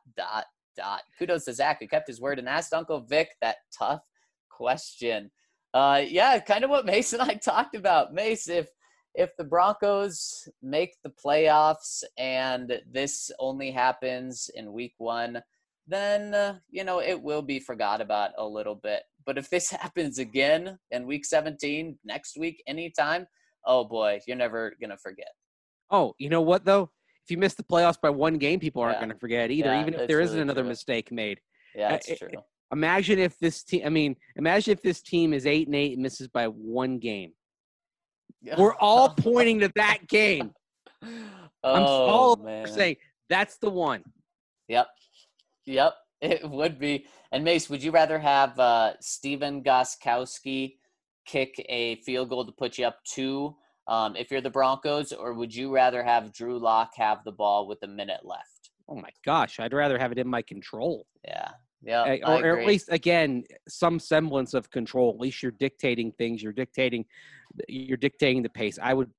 Kudos to Zach who kept his word and asked Uncle Vic that tough question." Yeah, kind of what Mace and I talked about. Mace, if the Broncos make the playoffs and this only happens in week 1, then, it will be forgot about a little bit. But if this happens again in week 17, next week, anytime, oh boy, you're never going to forget. Oh, you know what, though? If you miss the playoffs by 1 game, people aren't going to forget either, even if there isn't another mistake made. Yeah, it's true. Imagine if this team is 8-8 and misses by 1 game. We're all pointing to that game. I'm all saying that's the one. Yep, it would be. And Mace, would you rather have Steven Gostkowski kick a field goal to put you up 2 if you're the Broncos, or would you rather have Drew Lock have the ball with a minute left? Oh my gosh, I'd rather have it in my control. Yeah, or at least, again, some semblance of control. At least you're dictating things. You're dictating the pace. I would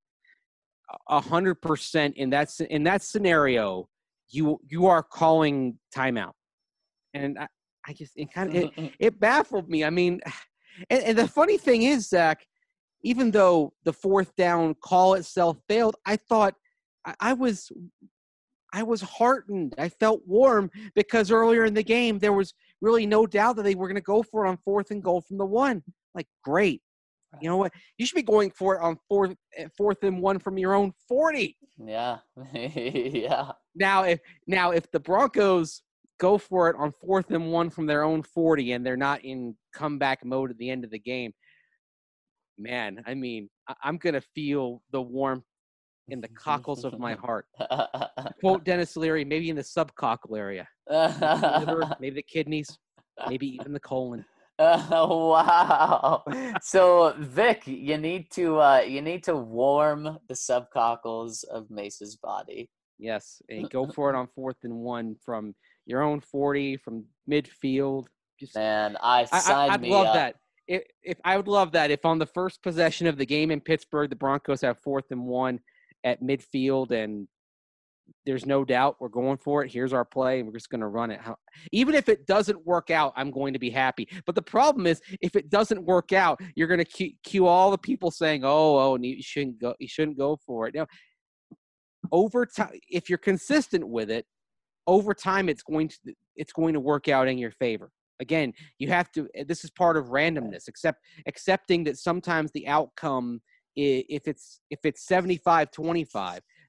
100% in that scenario. You are calling timeout, and I just it baffled me. I mean, and the funny thing is, Zach, even though the 4th down call itself failed, I thought I was heartened. I felt warm because earlier in the game, there was really no doubt that they were going to go for it on 4th and goal from the 1. Like, great. You know what? You should be going for it on 4th and 1 from your own 40. Yeah. Yeah. Now, if the Broncos go for it on 4th and 1 from their own 40 and they're not in comeback mode at the end of the game, man, I mean, I'm going to feel the warmth in the cockles of my heart. Quote Dennis Leary, maybe in the subcockle area. Maybe the kidneys, maybe even the colon. Wow. So Vic, you need to warm the subcockles of Mace's body. Yes, and go for it on 4th and 1 from your own 40, from midfield. Man, I'd love that. If I would love that if on the first possession of the game in Pittsburgh, the Broncos have 4th and 1 at midfield, and there's no doubt we're going for it. Here's our play, and we're just going to run it. Even if it doesn't work out, I'm going to be happy. But the problem is, if it doesn't work out, you're going to cue all the people saying, "Oh, you shouldn't go for it." Now, over time, if you're consistent with it, over time, it's going to work out in your favor. Again, you have to. This is part of randomness, accepting that sometimes the outcome, if it's 75-25,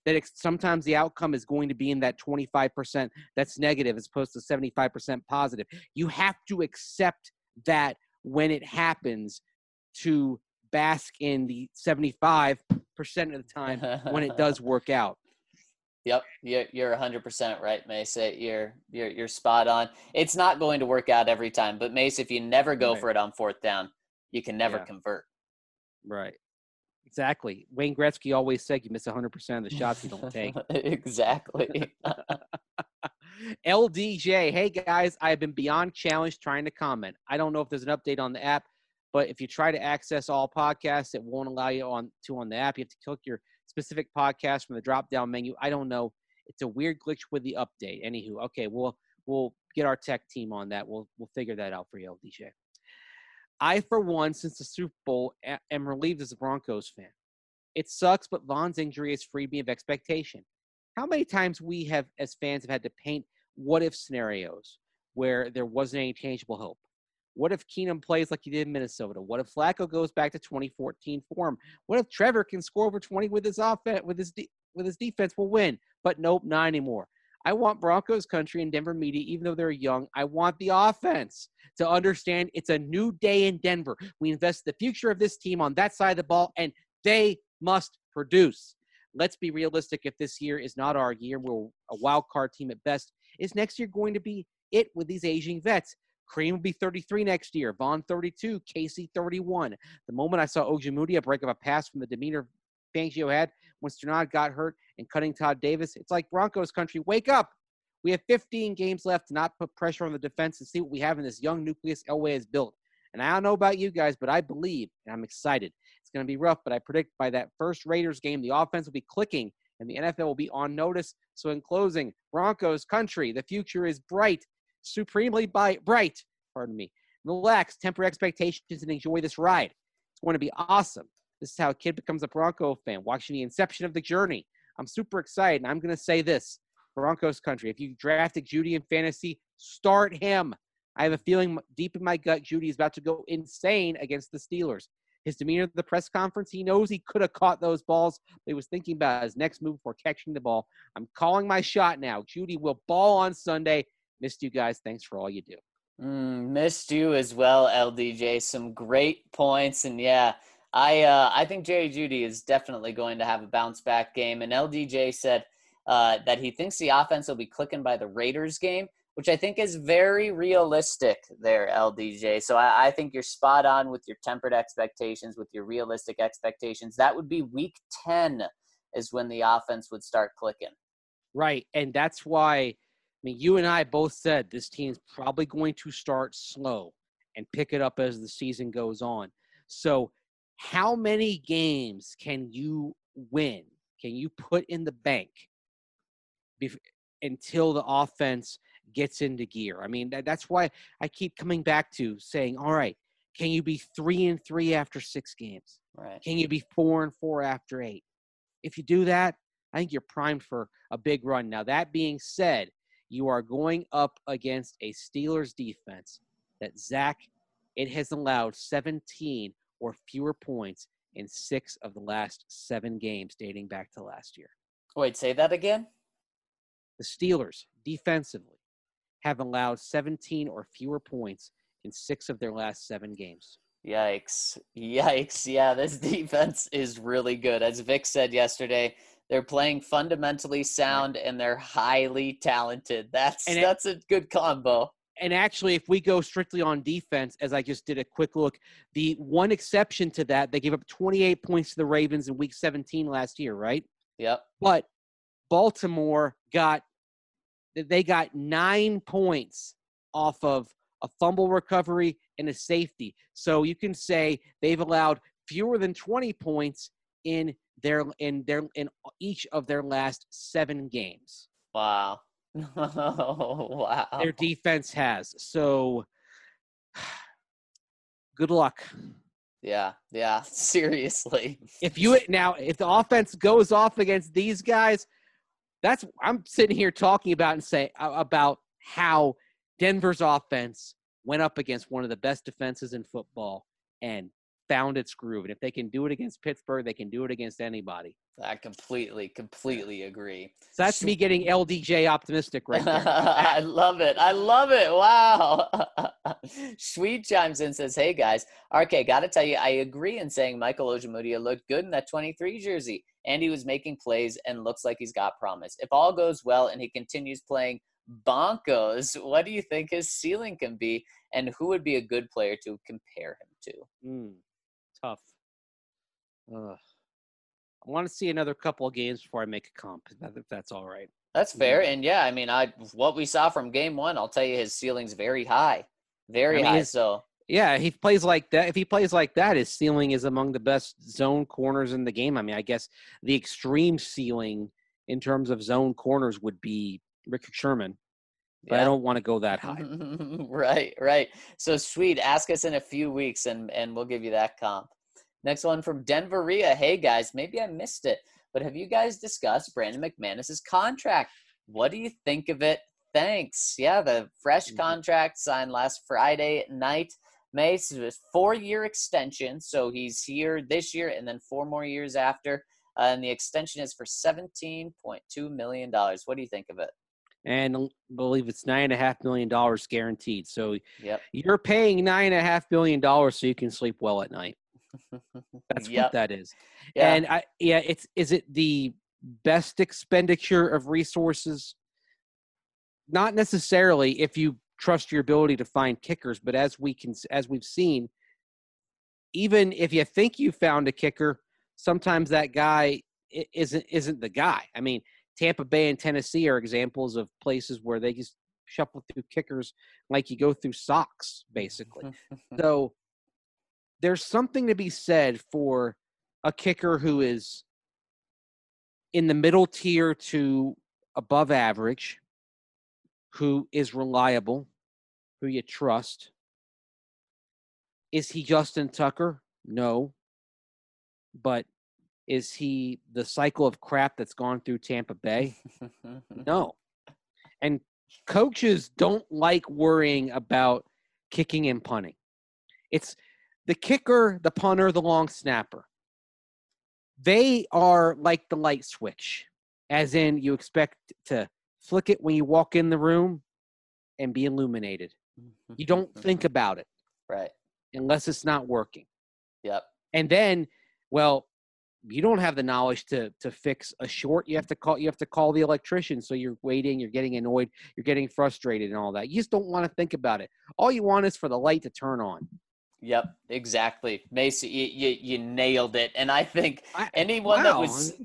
that sometimes the outcome is going to be in that 25% that's negative as opposed to 75% positive. You have to accept that when it happens, to bask in the 75% of the time when it does work out. Yep, you're 100% right, Mace. You're spot on. It's not going to work out every time, but Mace, if you never go for it on fourth down, you can never convert. Right. Exactly. Wayne Gretzky always said you miss 100% of the shots you don't take. Exactly. LDJ, hey guys, I have been beyond challenged trying to comment. I don't know if there's an update on the app, but if you try to access all podcasts, it won't allow you on the app. You have to click your specific podcast from the drop-down menu. I don't know. It's a weird glitch with the update. Anywho, okay, we'll get our tech team on that. We'll figure that out for you, LDJ. I, for one, since the Super Bowl, am relieved as a Broncos fan. It sucks, but Von's injury has freed me of expectation. How many times we have, as fans, have had to paint what-if scenarios where there wasn't any tangible hope? What if Keenum plays like he did in Minnesota? What if Flacco goes back to 2014 form? What if Trevor can score over 20 with his offense, with his defense? Will win, but nope, not anymore. I want Broncos country and Denver media, even though they're young. I want the offense to understand it's a new day in Denver. We invest the future of this team on that side of the ball, and they must produce. Let's be realistic. If this year is not our year, we're a wild card team at best. Is next year going to be it with these aging vets? Cream will be 33 next year. Von 32. Casey 31. The moment I saw Ojemudia break up a pass from the demeanor Fangio had when Sternad got hurt and cutting Todd Davis, it's like Broncos country, wake up. We have 15 games left to not put pressure on the defense and see what we have in this young nucleus Elway has built. And I don't know about you guys, but I believe, and I'm excited. It's going to be rough, but I predict by that first Raiders game, the offense will be clicking and the NFL will be on notice. So in closing, Broncos country, the future is bright, supremely bright. Relax, temper expectations, and enjoy this ride. It's going to be awesome. This is how a kid becomes a Bronco fan, watching the inception of the journey. I'm super excited, and I'm going to say this. Broncos country, if you drafted Jeudy in fantasy, start him. I have a feeling deep in my gut Jeudy is about to go insane against the Steelers. His demeanor at the press conference, he knows he could have caught those balls, but he was thinking about his next move before catching the ball. I'm calling my shot now. Jeudy will ball on Sunday. Missed you guys. Thanks for all you do. Missed you as well, LDJ. Some great points. And yeah, I think Jerry Jeudy is definitely going to have a bounce back game. And LDJ said that he thinks the offense will be clicking by the Raiders game, which I think is very realistic there, LDJ. So I think you're spot on with your tempered expectations, with your realistic expectations. That would be week 10 is when the offense would start clicking. Right. And that's why, you and I both said this team's probably going to start slow and pick it up as the season goes on. So how many games can you win? Can you put in the bank until the offense gets into gear? That's why I keep coming back to saying, all right, can you be 3-3 after 6 games? Right. Can you be 4-4 after 8? If you do that, I think you're primed for a big run. Now, that being said, you are going up against a Steelers defense that, Zach, it has allowed 17 or fewer points in 6 of the last 7 games dating back to last year. Wait, say that again? The Steelers, defensively, have allowed 17 or fewer points in 6 of their last 7 games. Yikes. Yeah, this defense is really good. As Vic said yesterday, they're playing fundamentally sound and they're highly talented. That's a good combo. And actually, if we go strictly on defense, as I just did a quick look, the one exception to that, they gave up 28 points to the Ravens in week 17 last year, right? Yep. But Baltimore got 9 points off of a fumble recovery and a safety. So you can say they've allowed fewer than 20 points in each of their last 7 games. Wow. Wow. Their defense has. So good luck. Yeah. Seriously. If the offense goes off against these guys, I'm sitting here talking about and say about how Denver's offense went up against one of the best defenses in football and found its groove. And if they can do it against Pittsburgh, they can do it against anybody. I completely agree. So that's me getting LDJ optimistic right there. I love it. Wow. Sweet chimes in, says, hey, guys. RK, got to tell you, I agree in saying Michael Ojemudia looked good in that 23 jersey, and he was making plays and looks like he's got promise. If all goes well and he continues playing bonkos, what do you think his ceiling can be, and who would be a good player to compare him to? Tough. I want to see another couple of games before I make a comp, if that's all right. That's fair. And yeah, I mean, what we saw from game one, I'll tell you, his ceiling's very high, high. So yeah, he plays like that. If he plays like that, his ceiling is among the best zone corners in the game. I mean, I guess the extreme ceiling in terms of zone corners would be Richard Sherman, but I don't want to go that high. Right. So sweet. Ask us in a few weeks, and we'll give you that comp. Next one from Denveria. Hey, guys, maybe I missed it, but have you guys discussed Brandon McManus's contract? What do you think of it? Thanks. Yeah, the fresh contract signed last Friday night. Mace, it was 4-year extension, so he's here this year and then 4 more years after, and the extension is for $17.2 million. What do you think of it? And I believe it's $9.5 million guaranteed. So yep. You're paying $9.5 million so you can sleep well at night. That's what that is. Yeah. And is it the best expenditure of resources? Not necessarily if you trust your ability to find kickers, but as we've seen, even if you think you found a kicker, sometimes that guy isn't the guy. I mean, Tampa Bay and Tennessee are examples of places where they just shuffle through kickers like you go through socks, basically. So there's something to be said for a kicker who is in the middle tier to above average, who is reliable, who you trust. Is he Justin Tucker? No. But is he the cycle of crap that's gone through Tampa Bay? No. And coaches don't like worrying about kicking and punting. It's the kicker, the punter, the long snapper. They are like the light switch, as in you expect to flick it when you walk in the room and be illuminated. You don't think about it. Right. Unless it's not working. Yep. And then, well, you don't have the knowledge to fix a short. You have to call the electrician. So you're waiting, you're getting annoyed, you're getting frustrated and all that. You just don't want to think about it. All you want is for the light to turn on. Yep, exactly. Mason, you nailed it. And I think anyone that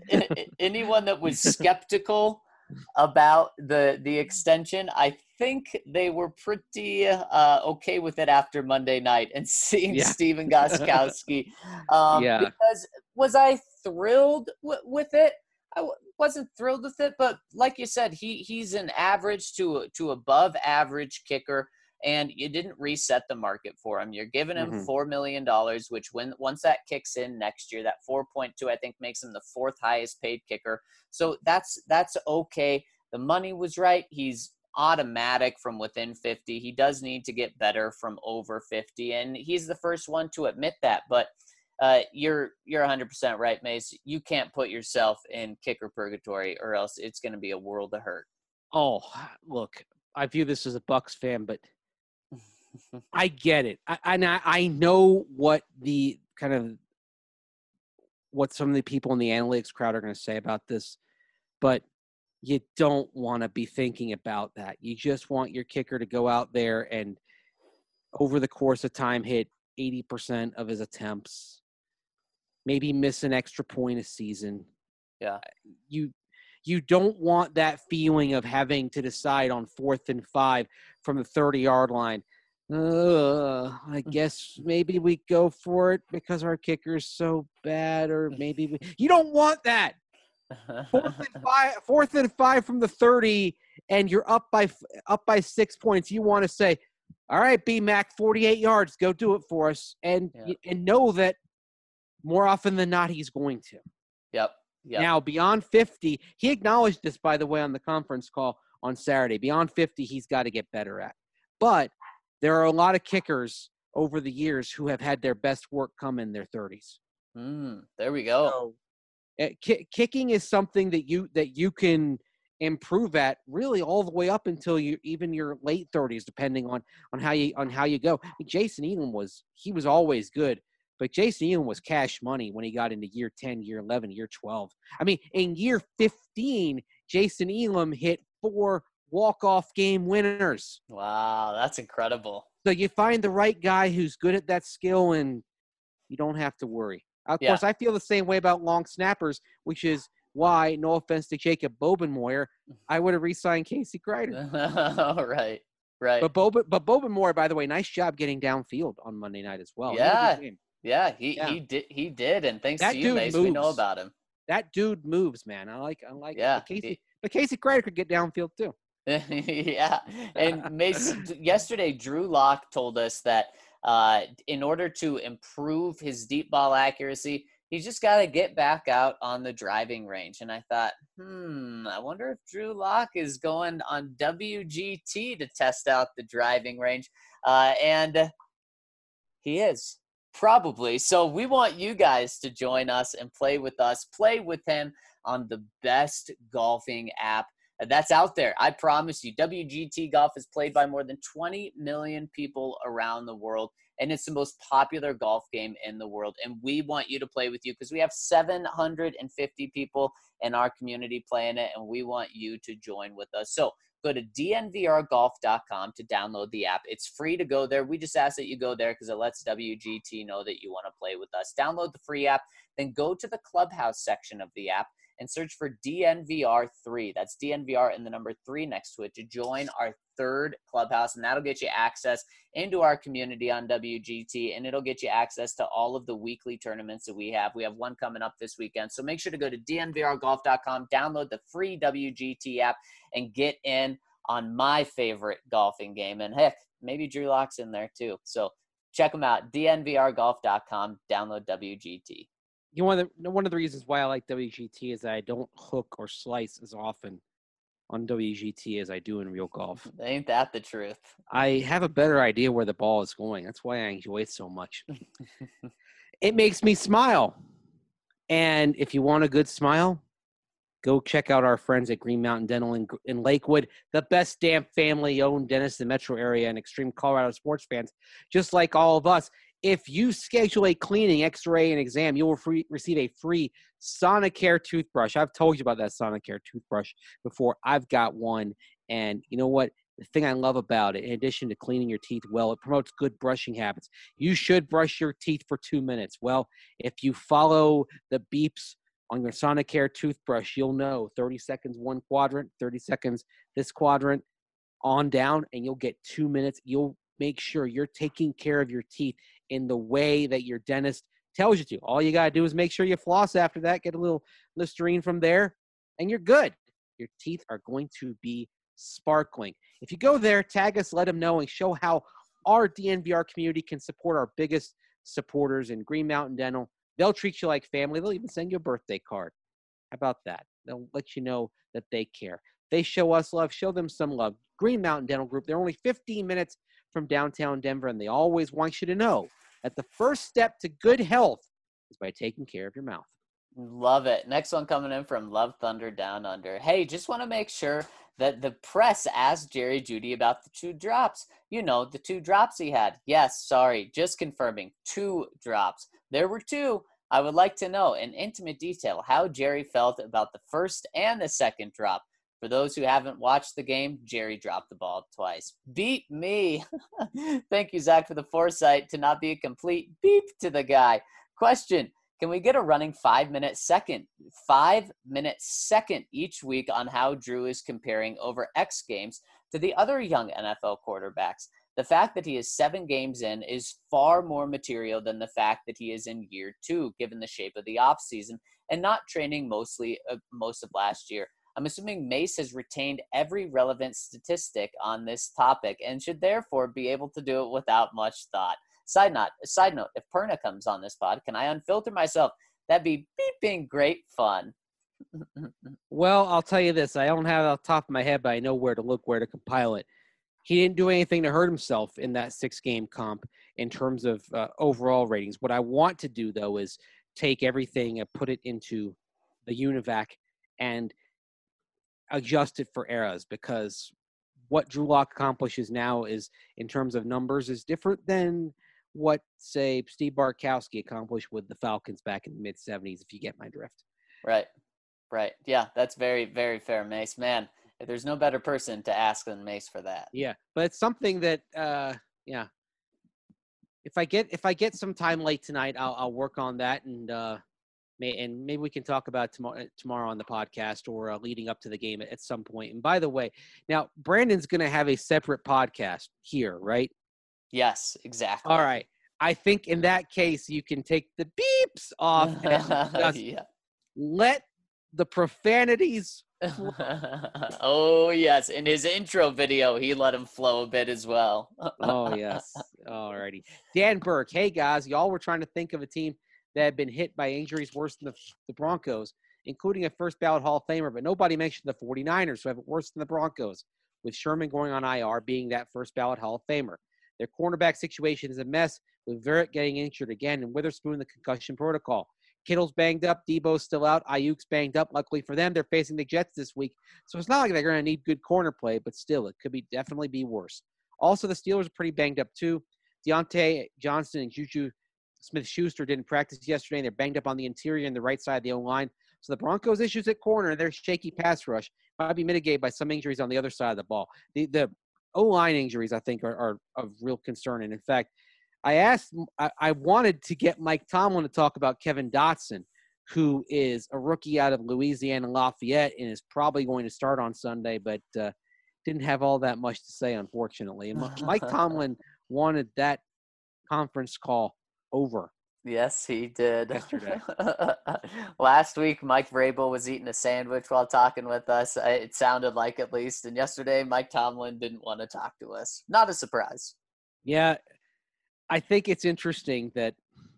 was skeptical about the extension, I think they were pretty okay with it after Monday night and seeing Stephen Gostkowski. Because was I thrilled with it? I wasn't thrilled with it, but like you said, he's an average to above average kicker. And you didn't reset the market for him. You're giving him $4 million, which once that kicks in next year, that 4.2, I think, makes him the 4th highest paid kicker. So that's okay. The money was right. He's automatic from within 50. He does need to get better from over 50, and he's the first one to admit that. But you're 100% right, Mace. You can't put yourself in kicker purgatory, or else it's going to be a world of hurt. Oh, look, I view this as a Bucks fan, but I get it. I know what what some of the people in the analytics crowd are going to say about this, but you don't want to be thinking about that. You just want your kicker to go out there and over the course of time hit 80% of his attempts, maybe miss an extra point a season. Yeah. You don't want that feeling of having to decide on 4th and 5 from the 30-yard line. I guess maybe we go for it because our kicker is so bad, or maybe you don't want that. 4th and 5 from the 30, and you're up by 6 points. You want to say, all right, B-Mac, 48 yards, go do it for us, and know that more often than not he's going to. Yep. Now, beyond 50, he acknowledged this, by the way, on the conference call on Saturday. Beyond 50, he's got to get better at. But there are a lot of kickers over the years who have had their best work come in their 30s. There we go. So, kicking is something that you can improve at really all the way up until even your late 30s, depending on how you go. I mean, Jason Elam was always good, but Jason Elam was cash money when he got into year 10, year 11, year 12. I mean, in year 15, Jason Elam hit 4 walk-off game winners. Wow, that's incredible. So you find the right guy who's good at that skill, and you don't have to worry. Of course, I feel the same way about long snappers, which is why, no offense to Jacob Bobenmoyer, I would have re-signed Casey Kreider. Right. But Bobenmoyer, by the way, nice job getting downfield on Monday night as well. He did, and thanks to you, Mace, we know about him. That dude moves, man. I like. Yeah, but Casey Kreider could get downfield too. Yeah, and Mace, yesterday Drew Lock told us that in order to improve his deep ball accuracy, he's just got to get back out on the driving range. And I thought, I wonder if Drew Lock is going on WGT to test out the driving range. And he is, probably. So we want you guys to join us and play with us. Play with him on the best golfing app that's out there. I promise you, WGT Golf is played by more than 20 million people around the world, and it's the most popular golf game in the world. And we want you to play with you because we have 750 people in our community playing it, and we want you to join with us. So go to dnvrgolf.com to download the app. It's free to go there. We just ask that you go there because it lets WGT know that you want to play with us. Download the free app, then go to the Clubhouse section of the app and search for DNVR3. That's DNVR and the number 3 next to it to join our third Clubhouse, and that'll get you access into our community on WGT, and it'll get you access to all of the weekly tournaments that we have. We have one coming up this weekend, so make sure to go to dnvrgolf.com, download the free WGT app, and get in on my favorite golfing game. And heck, maybe Drew Lock's in there too. So check them out, dnvrgolf.com, download WGT. You know, one of the reasons why I like WGT is that I don't hook or slice as often on WGT as I do in real golf. Ain't that the truth? I have a better idea where the ball is going. That's why I enjoy it so much. It makes me smile. And if you want a good smile, go check out our friends at Green Mountain Dental in Lakewood, the best damn family-owned dentist in the metro area and extreme Colorado sports fans, just like all of us. If you schedule a cleaning, x-ray, and exam, you will receive a free Sonicare toothbrush. I've told you about that Sonicare toothbrush before. I've got one, and you know what? The thing I love about it, in addition to cleaning your teeth well, it promotes good brushing habits. You should brush your teeth for 2 minutes. Well, if you follow the beeps on your Sonicare toothbrush, you'll know 30 seconds one quadrant, 30 seconds this quadrant, on down, and you'll get 2 minutes. You'll make sure you're taking care of your teeth in the way that your dentist tells you to. All you got to do is make sure you floss after that, get a little Listerine from there, and you're good. Your teeth are going to be sparkling. If you go there, tag us, let them know, and show how our DNVR community can support our biggest supporters in Green Mountain Dental. They'll treat you like family. They'll even send you a birthday card. How about that? They'll let you know that they care. They show us love. Show them some love. Green Mountain Dental Group, they're only 15 minutes from downtown Denver, and they always want you to know that the first step to good health is by taking care of your mouth. Love it. Next one coming in from Love Thunder Down Under. Hey, just want to make sure that the press asked Jerry Jeudy about the 2 drops. You know, the 2 drops he had. Yes, sorry, just confirming, 2 drops. There were 2. I would like to know in intimate detail how Jerry felt about the first and the second drop. For those who haven't watched the game, Jerry dropped the ball twice. Beat me. Thank you, Zach, for the foresight to not be a complete beep to the guy. Question, can we get a running 5-minute second each week on how Drew is comparing over X Games to the other young NFL quarterbacks? The fact that he is 7 games in is far more material than the fact that he is in year 2, given the shape of the offseason and not training most of last year. I'm assuming Mace has retained every relevant statistic on this topic and should therefore be able to do it without much thought. Side note, if Perna comes on this pod, can I unfilter myself? That'd be beeping great fun. Well, I'll tell you this. I don't have it off the top of my head, but I know where to look, where to compile it. he didn't do anything to hurt himself in that 6-game comp in terms of overall ratings. What I want to do, though, is take everything and put it into the UNIVAC and adjust it for eras, because what Drew Lock accomplishes now is, in terms of numbers, is different than what, say, Steve Bartkowski accomplished with the Falcons back in the mid-'70s, if you get my drift. Right. Yeah, that's very, very fair, Mace. Man, there's no better person to ask than Mace for that. Yeah, but it's something that, if I get some time late tonight, I'll work on that, and maybe we can talk about tomorrow on the podcast, or leading up to the game at some point. And by the way, now Brandon's going to have a separate podcast here, right? Yes, exactly. All right. I think in that case, you can take the beeps off and just let the profanities. Oh, yes. In his intro video, he let him flow a bit as well. Oh, yes. All righty. Dan Burke. Hey, guys. Y'all were trying to think of a team that had been hit by injuries worse than the Broncos, including a first ballot Hall of Famer, but nobody mentioned the 49ers, who have it worse than the Broncos, with Sherman going on IR being that first ballot Hall of Famer. Their cornerback situation is a mess, with Verrett getting injured again and Witherspoon in the concussion protocol. Kittle's banged up. Debo's still out. Ayuk's banged up. Luckily for them, they're facing the Jets this week. So it's not like they're going to need good corner play, but still, it could definitely be worse. Also, the Steelers are pretty banged up too. Deontay Johnson and Juju Smith-Schuster didn't practice yesterday, and they're banged up on the interior and the right side of the O-line. So the Broncos' issues at corner and their shaky pass rush might be mitigated by some injuries on the other side of the ball. The O-line injuries, I think, are of real concern. And, in fact, I wanted to get Mike Tomlin to talk about Kevin Dotson, who is a rookie out of Louisiana Lafayette and is probably going to start on Sunday, but didn't have all that much to say, unfortunately. And Mike Tomlin wanted that conference call over. Yes, he did. Yesterday. Last week, Mike Vrabel was eating a sandwich while talking with us. It sounded like, at least. And yesterday, Mike Tomlin didn't want to talk to us. Not a surprise. Yeah, I think it's interesting that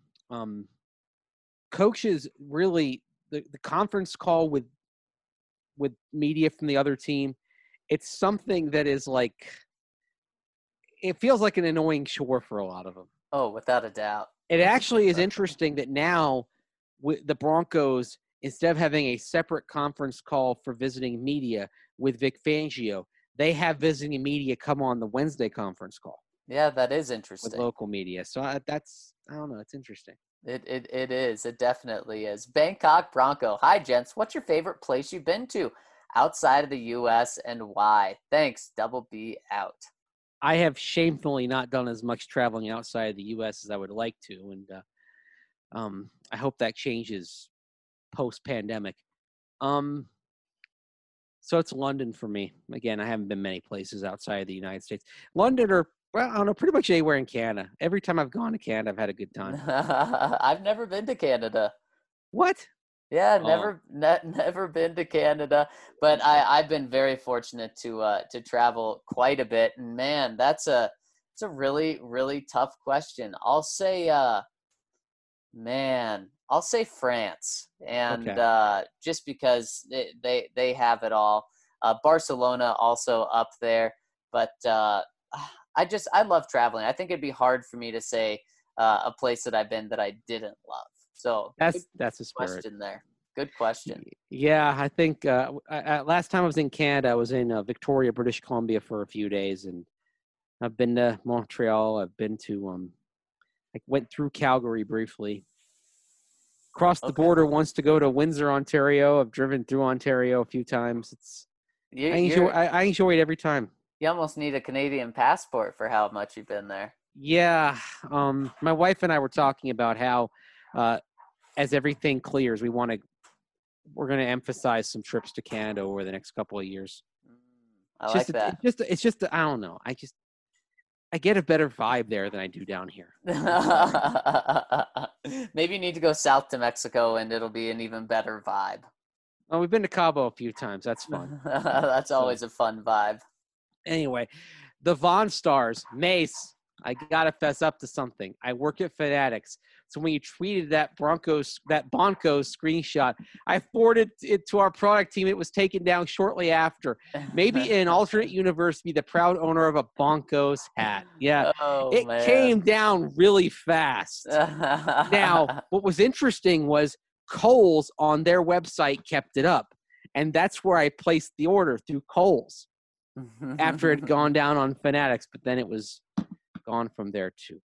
coaches really the conference call with media from the other team, it's something that is like, it feels like an annoying chore for a lot of them. Oh, without a doubt. It actually is interesting that now with the Broncos, instead of having a separate conference call for visiting media with Vic Fangio, they have visiting media come on the Wednesday conference call. Yeah, that is interesting. With local media. So I don't know. It's interesting. It is. It definitely is. Bangkok Bronco. Hi, gents. What's your favorite place you've been to outside of the U.S. and why? Thanks. Double B out. I have shamefully not done as much traveling outside of the U.S. as I would like to, and I hope that changes post-pandemic. So it's London for me. Again, I haven't been many places outside of the United States. London, or well, I don't know, pretty much anywhere in Canada. Every time I've gone to Canada, I've had a good time. I've never been to Canada. What? Yeah, never been to Canada, but I've been very fortunate to travel quite a bit. And man, it's a really, really tough question. I'll say France, and okay. Just because they have it all. Barcelona also up there, but I love traveling. I think it'd be hard for me to say a place that I've been that I didn't love. So that's a spirit. Question there. Good question. Yeah, I think last time I was in Canada, I was in Victoria, British Columbia for a few days, and I've been to Montreal. I've been to I went through Calgary briefly. Crossed the border once to go to Windsor, Ontario. I've driven through Ontario a few times. I enjoy it every time. You almost need a Canadian passport for how much you've been there. Yeah. My wife and I were talking about how as everything clears, we're going to emphasize some trips to Canada over the next couple of years. I like that. It's just I don't know. I get a better vibe there than I do down here. Maybe you need to go south to Mexico and it'll be an even better vibe. Well, we've been to Cabo a few times. That's fun. That's always a fun vibe. Anyway, the Von Stars, Mace, I gotta fess up to something. I work at Fanatics. So when you tweeted that Broncos screenshot, I forwarded it to our product team. It was taken down shortly after. Maybe in an alternate universe, be the proud owner of a Broncos hat. Yeah, Oh, it man. came down really fast. Now, what was interesting was Kohl's on their website kept it up, and that's where I placed the order through Kohl's after it had gone down on Fanatics, but then it was gone from there too.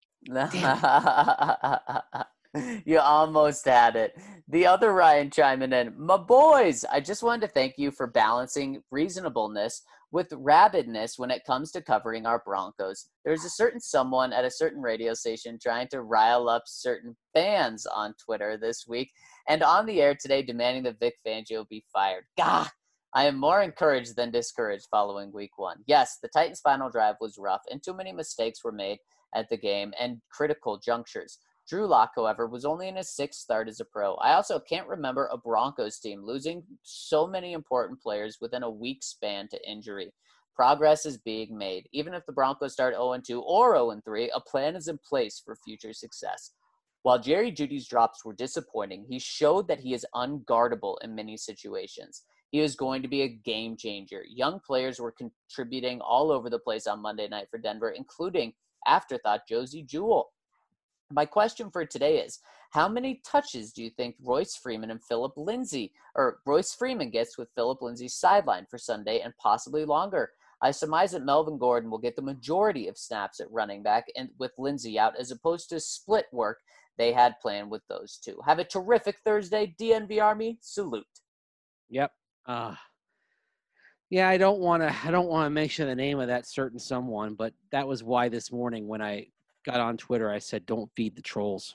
You almost had it. The other Ryan chiming in, my boys, I just wanted to thank you for balancing reasonableness with rabidness when it comes to covering our Broncos. There's a certain someone at a certain radio station trying to rile up certain fans on Twitter this week and on the air today demanding that Vic Fangio be fired. Gah! I am more encouraged than discouraged following week one. Yes, the Titans' final drive was rough and too many mistakes were made at the game and critical junctures. Drew Lock, however, was only in his sixth start as a pro. I also can't remember a Broncos team losing so many important players within a week span to injury. Progress is being made. Even if the Broncos start 0-2 or 0-3, a plan is in place for future success. While Jerry Jeudy's drops were disappointing, he showed that he is unguardable in many situations. He is going to be a game changer. Young players were contributing all over the place on Monday night for Denver, including afterthought Josie Jewell. My question for today is, how many touches do you think Royce Freeman gets with Philip Lindsay's sideline for Sunday and possibly longer? I surmise that Melvin Gordon will get the majority of snaps at running back and with Lindsay out as opposed to split work they had planned with those two. Have a terrific Thursday, DNV Army. Salute. Yep. Yeah, I don't want to mention the name of that certain someone, but that was why this morning when I got on Twitter, I said, don't feed the trolls.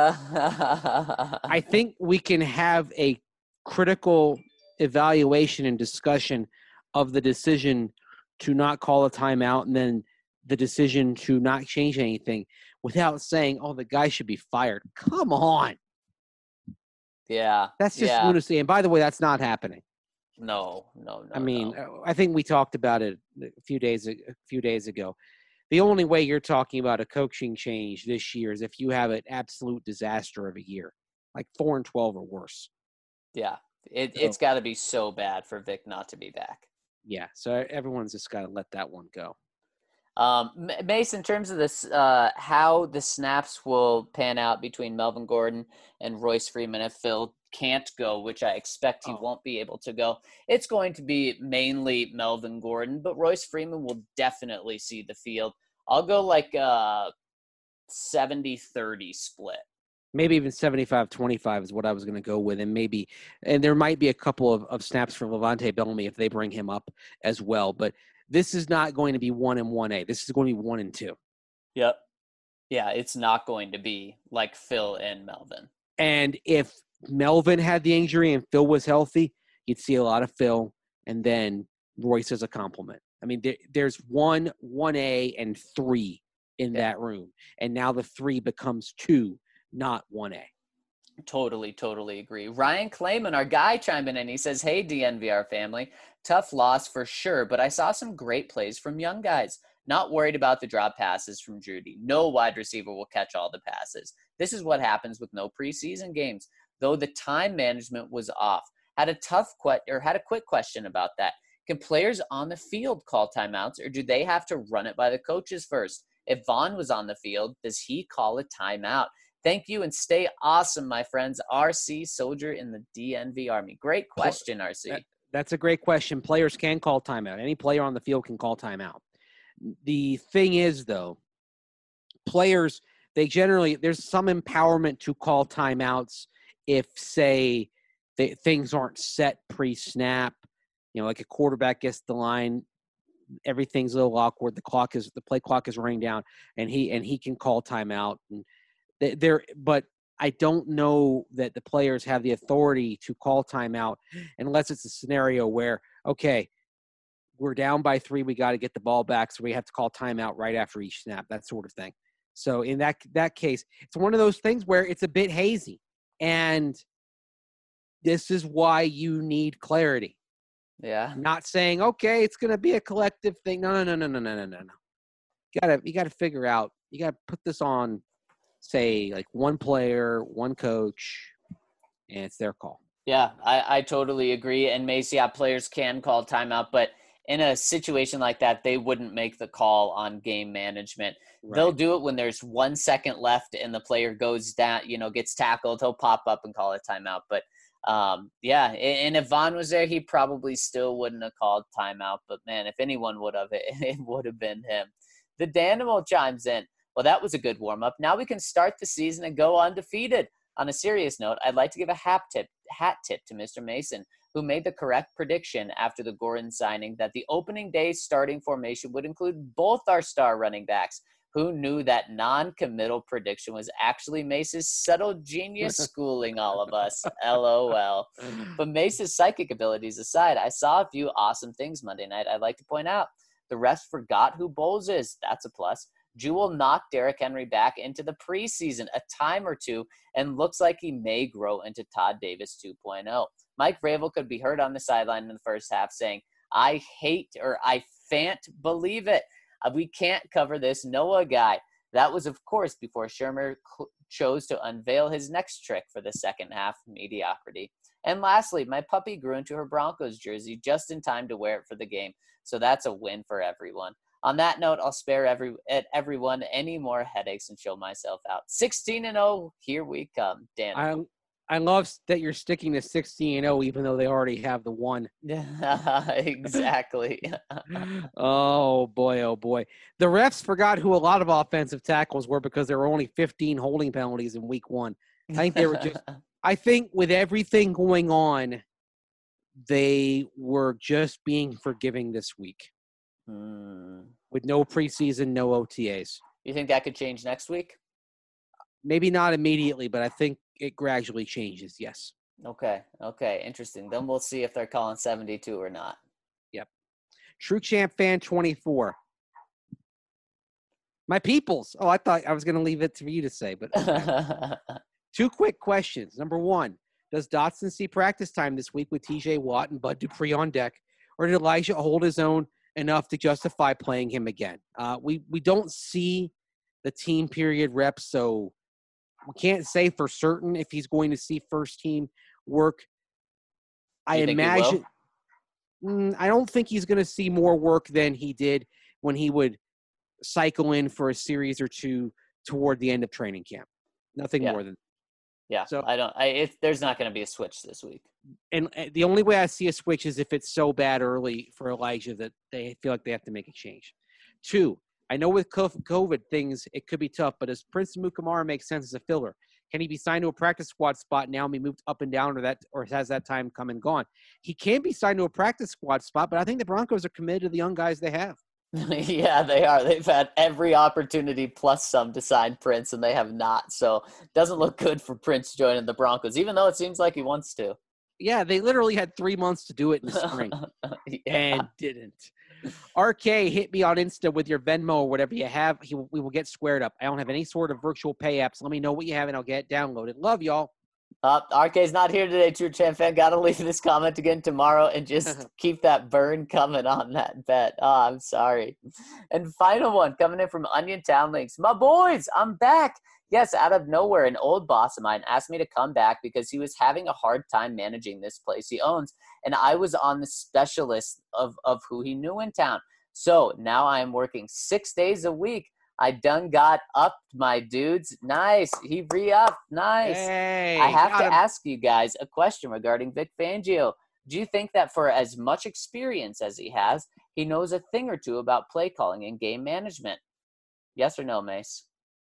I think we can have a critical evaluation and discussion of the decision to not call a timeout and then the decision to not change anything without saying, oh, the guy should be fired. Come on. Yeah. That's just lunacy. And by the way, that's not happening. No. I mean, I think we talked about it a few days ago. The only way you're talking about a coaching change this year is if you have an absolute disaster of a year, like 4-12 or worse. Yeah, it's got to be so bad for Vic not to be back. Yeah, so everyone's just got to let that one go. Mace, in terms of this, how the snaps will pan out between Melvin Gordon and Royce Freeman if Phil can't go, which I expect he won't be able to go, it's going to be mainly Melvin Gordon, but Royce Freeman will definitely see the field. I'll go like a 70-30 split. Maybe even 75-25 is what I was going to go with. And there might be a couple of snaps for Levante Bellamy if they bring him up as well. But this is not going to be 1 and 1A. This is going to be 1 and 2. Yep. Yeah, it's not going to be like Phil and Melvin. And if Melvin had the injury and Phil was healthy, you'd see a lot of Phil and then Royce as a compliment. I mean, there's 1, 1A, and 3 in that room. And now the 3 becomes 2, not 1A. Totally agree. Ryan Clayman, our guy, chimed in and he says, hey, DNVR family, tough loss for sure, but I saw some great plays from young guys. Not worried about the drop passes from Jeudy. No wide receiver will catch all the passes. This is what happens with no preseason games. Though the time management was off. Had a quick question about that. Can players on the field call timeouts, or do they have to run it by the coaches first? If Vaughn was on the field, does he call a timeout? Thank you and stay awesome, my friends. RC, soldier in the DNV Army. Great question, RC. That's a great question. Players can call timeout. Any player on the field can call timeout. The thing is, though, players, there's some empowerment to call timeouts if, say, things aren't set pre-snap. Like a quarterback gets the line, everything's a little awkward. The play clock is running down, and he can call timeout. And but I don't know that the players have the authority to call timeout unless it's a scenario where, okay, we're down by 3, we got to get the ball back, so we have to call timeout right after each snap, that sort of thing. So in that case, it's one of those things where it's a bit hazy, and this is why you need clarity. Yeah. Not saying, okay, it's going to be a collective thing. No. You got to figure out, you got to put this on, say, like one player, one coach, and it's their call. Yeah, I totally agree. And Mace, yeah, players can call timeout, but in a situation like that, they wouldn't make the call on game management. Right. They'll do it when there's 1 second left and the player goes down, gets tackled. He'll pop up and call a timeout. But yeah, and if Vaughn was there, he probably still wouldn't have called timeout. But man, if anyone would have, it would have been him. The Danimal chimes in. Well, that was a good warm up. Now we can start the season and go undefeated. On a serious note, I'd like to give a hat tip to Mr. Mason, who made the correct prediction after the Gordon signing that the opening day starting formation would include both our star running backs. Who knew that non-committal prediction was actually Mace's subtle genius schooling all of us? LOL. But Mace's psychic abilities aside, I saw a few awesome things Monday night I'd like to point out. The refs forgot who Bowles is. That's a plus. Jewell knocked Derrick Henry back into the preseason a time or two and looks like he may grow into Todd Davis 2.0. Mike Vrabel could be heard on the sideline in the first half saying, I can't believe it. We can't cover this Noah guy. That was, of course, before Shurmur chose to unveil his next trick for the second half, mediocrity. And lastly, my puppy grew into her Broncos jersey just in time to wear it for the game. So that's a win for everyone. On that note, I'll spare everyone any more headaches and chill myself out. 16-0, here we come. Dan. I love that you're sticking to 16-0, even though they already have the one. Exactly. Oh boy. The refs forgot who a lot of offensive tackles were because there were only 15 holding penalties in week 1. I think they were just – I think with everything going on, they were just being forgiving this week. With no preseason, no OTAs. You think that could change next week? Maybe not immediately, but I think it gradually changes, yes. Okay, interesting. Then we'll see if they're calling 72 or not. Yep. True Champ Fan 24. My peoples. Oh, I thought I was going to leave it for you to say, but okay. 2 quick questions. Number 1, does Dotson see practice time this week with TJ Watt and Bud Dupree on deck, or did Elijah hold his own enough to justify playing him again? We don't see the team period reps, so we can't say for certain if he's going to see first team work. I imagine I don't think he's going to see more work than he did when he would cycle in for a series or two toward the end of training camp. Nothing more than. Yeah. So there's not going to be a switch this week. And the only way I see a switch is if it's so bad early for Elijah that they feel like they have to make a change. 2, I know with COVID things, it could be tough, but does Prince Amukamara make sense as a filler? Can he be signed to a practice squad spot now and be moved up and down, or has that time come and gone? He can be signed to a practice squad spot, but I think the Broncos are committed to the young guys they have. Yeah, they are. They've had every opportunity plus some to sign Prince, and they have not. So it doesn't look good for Prince joining the Broncos, even though it seems like he wants to. Yeah, they literally had 3 months to do it in the spring and didn't. RK, hit me on Insta with your Venmo or whatever you have. We will get squared up. I don't have any sort of virtual pay apps. Let me know what you have, and I'll get it downloaded. Love y'all. RK's not here today, True Champ Fan. Got to leave this comment again tomorrow and just keep that burn coming on that bet. Oh, I'm sorry. And final one coming in from Onion Town Links. My boys, I'm back. Yes, out of nowhere, an old boss of mine asked me to come back because he was having a hard time managing this place he owns, and I was on the specialist of who he knew in town. So now I am working 6 days a week. I done got upped, my dudes. Nice. He re-upped. Nice. Hey, I have to ask you guys a question regarding Vic Fangio. Do you think that for as much experience as he has, he knows a thing or two about play calling and game management? Yes or no, Mace?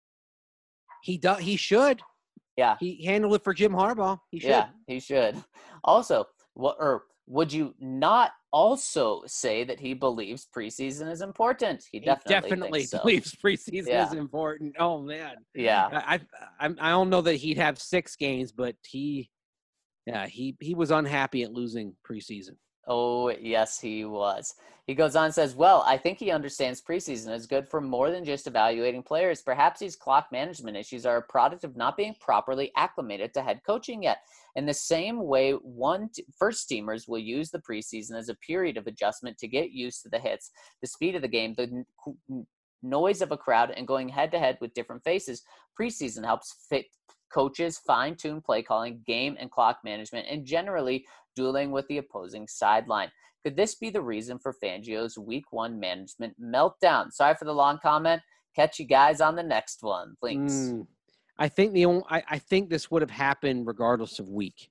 He should. Yeah. He handled it for Jim Harbaugh. He should. Yeah, he should. Also, would you not also say that he believes preseason is important? He definitely believes preseason is important. Oh man. Yeah. I don't know that he'd have 6 games, but he was unhappy at losing preseason. Oh, yes, he was. He goes on and says, well, I think he understands preseason is good for more than just evaluating players. Perhaps these clock management issues are a product of not being properly acclimated to head coaching yet. In the same way, first teamers will use the preseason as a period of adjustment to get used to the hits, the speed of the game, the noise of a crowd and going head-to-head with different faces. Preseason helps fit coaches fine-tune play calling, game and clock management, and generally dueling with the opposing sideline. Could this be the reason for Fangio's Week 1 management meltdown? Sorry for the long comment. Catch you guys on the next one. Thanks. I think I think this would have happened regardless of week,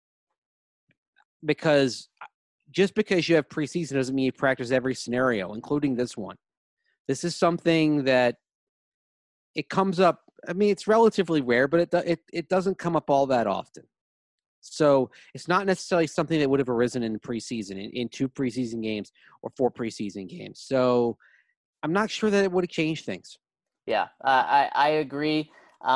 because just because you have preseason doesn't mean you practice every scenario, including this one. This is something that it comes up. I mean, it's relatively rare, but it doesn't come up all that often. So it's not necessarily something that would have arisen in preseason, in 2 preseason games or 4 preseason games. So I'm not sure that it would have changed things. Yeah, I agree.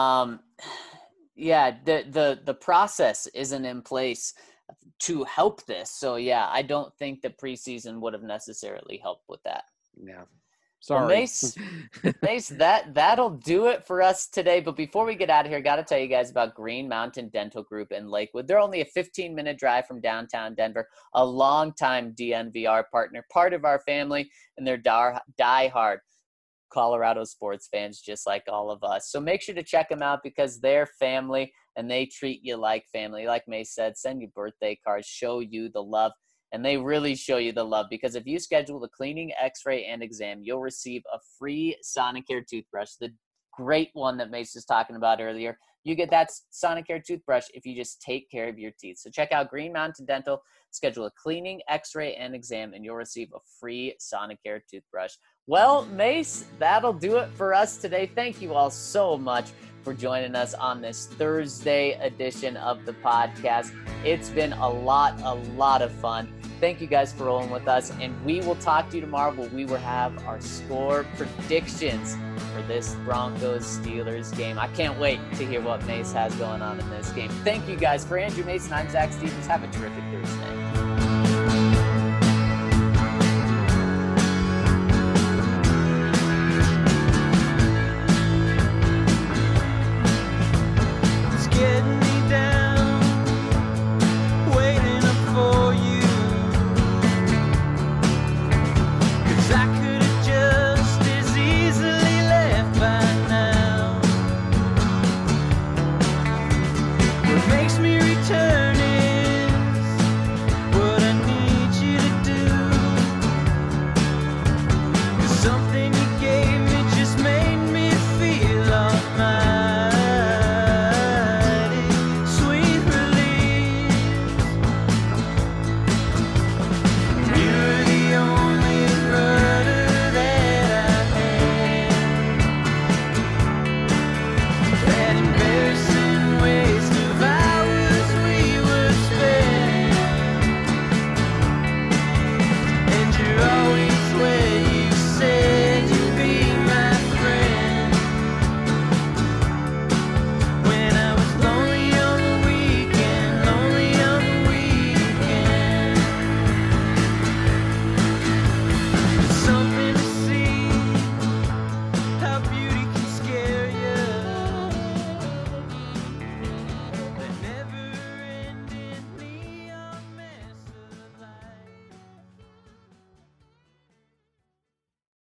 The process isn't in place to help this. So yeah, I don't think the preseason would have necessarily helped with that. Yeah. Sorry. Well, Mace, that'll do it for us today. But before we get out of here, got to tell you guys about Green Mountain Dental Group in Lakewood. They're only a 15-minute drive from downtown Denver, a longtime DNVR partner, part of our family, and they're diehard Colorado sports fans just like all of us. So make sure to check them out because they're family and they treat you like family. Like Mace said, send you birthday cards, show you the love. And they really show you the love because if you schedule a cleaning, x-ray, and exam, you'll receive a free Sonicare toothbrush, the great one that Mace was talking about earlier. You get that Sonicare toothbrush if you just take care of your teeth. So check out Green Mountain Dental, schedule a cleaning, x-ray, and exam, and you'll receive a free Sonicare toothbrush. Well, Mace, that'll do it for us today. Thank you all so much for joining us on this Thursday edition of the podcast. It's been a lot of fun. Thank you guys for rolling with us, and we will talk to you tomorrow where we will have our score predictions for this Broncos-Steelers game. I can't wait to hear what Mace has going on in this game. Thank you guys. For Andrew Mason, I'm Zach Stevens. Have a terrific Thursday.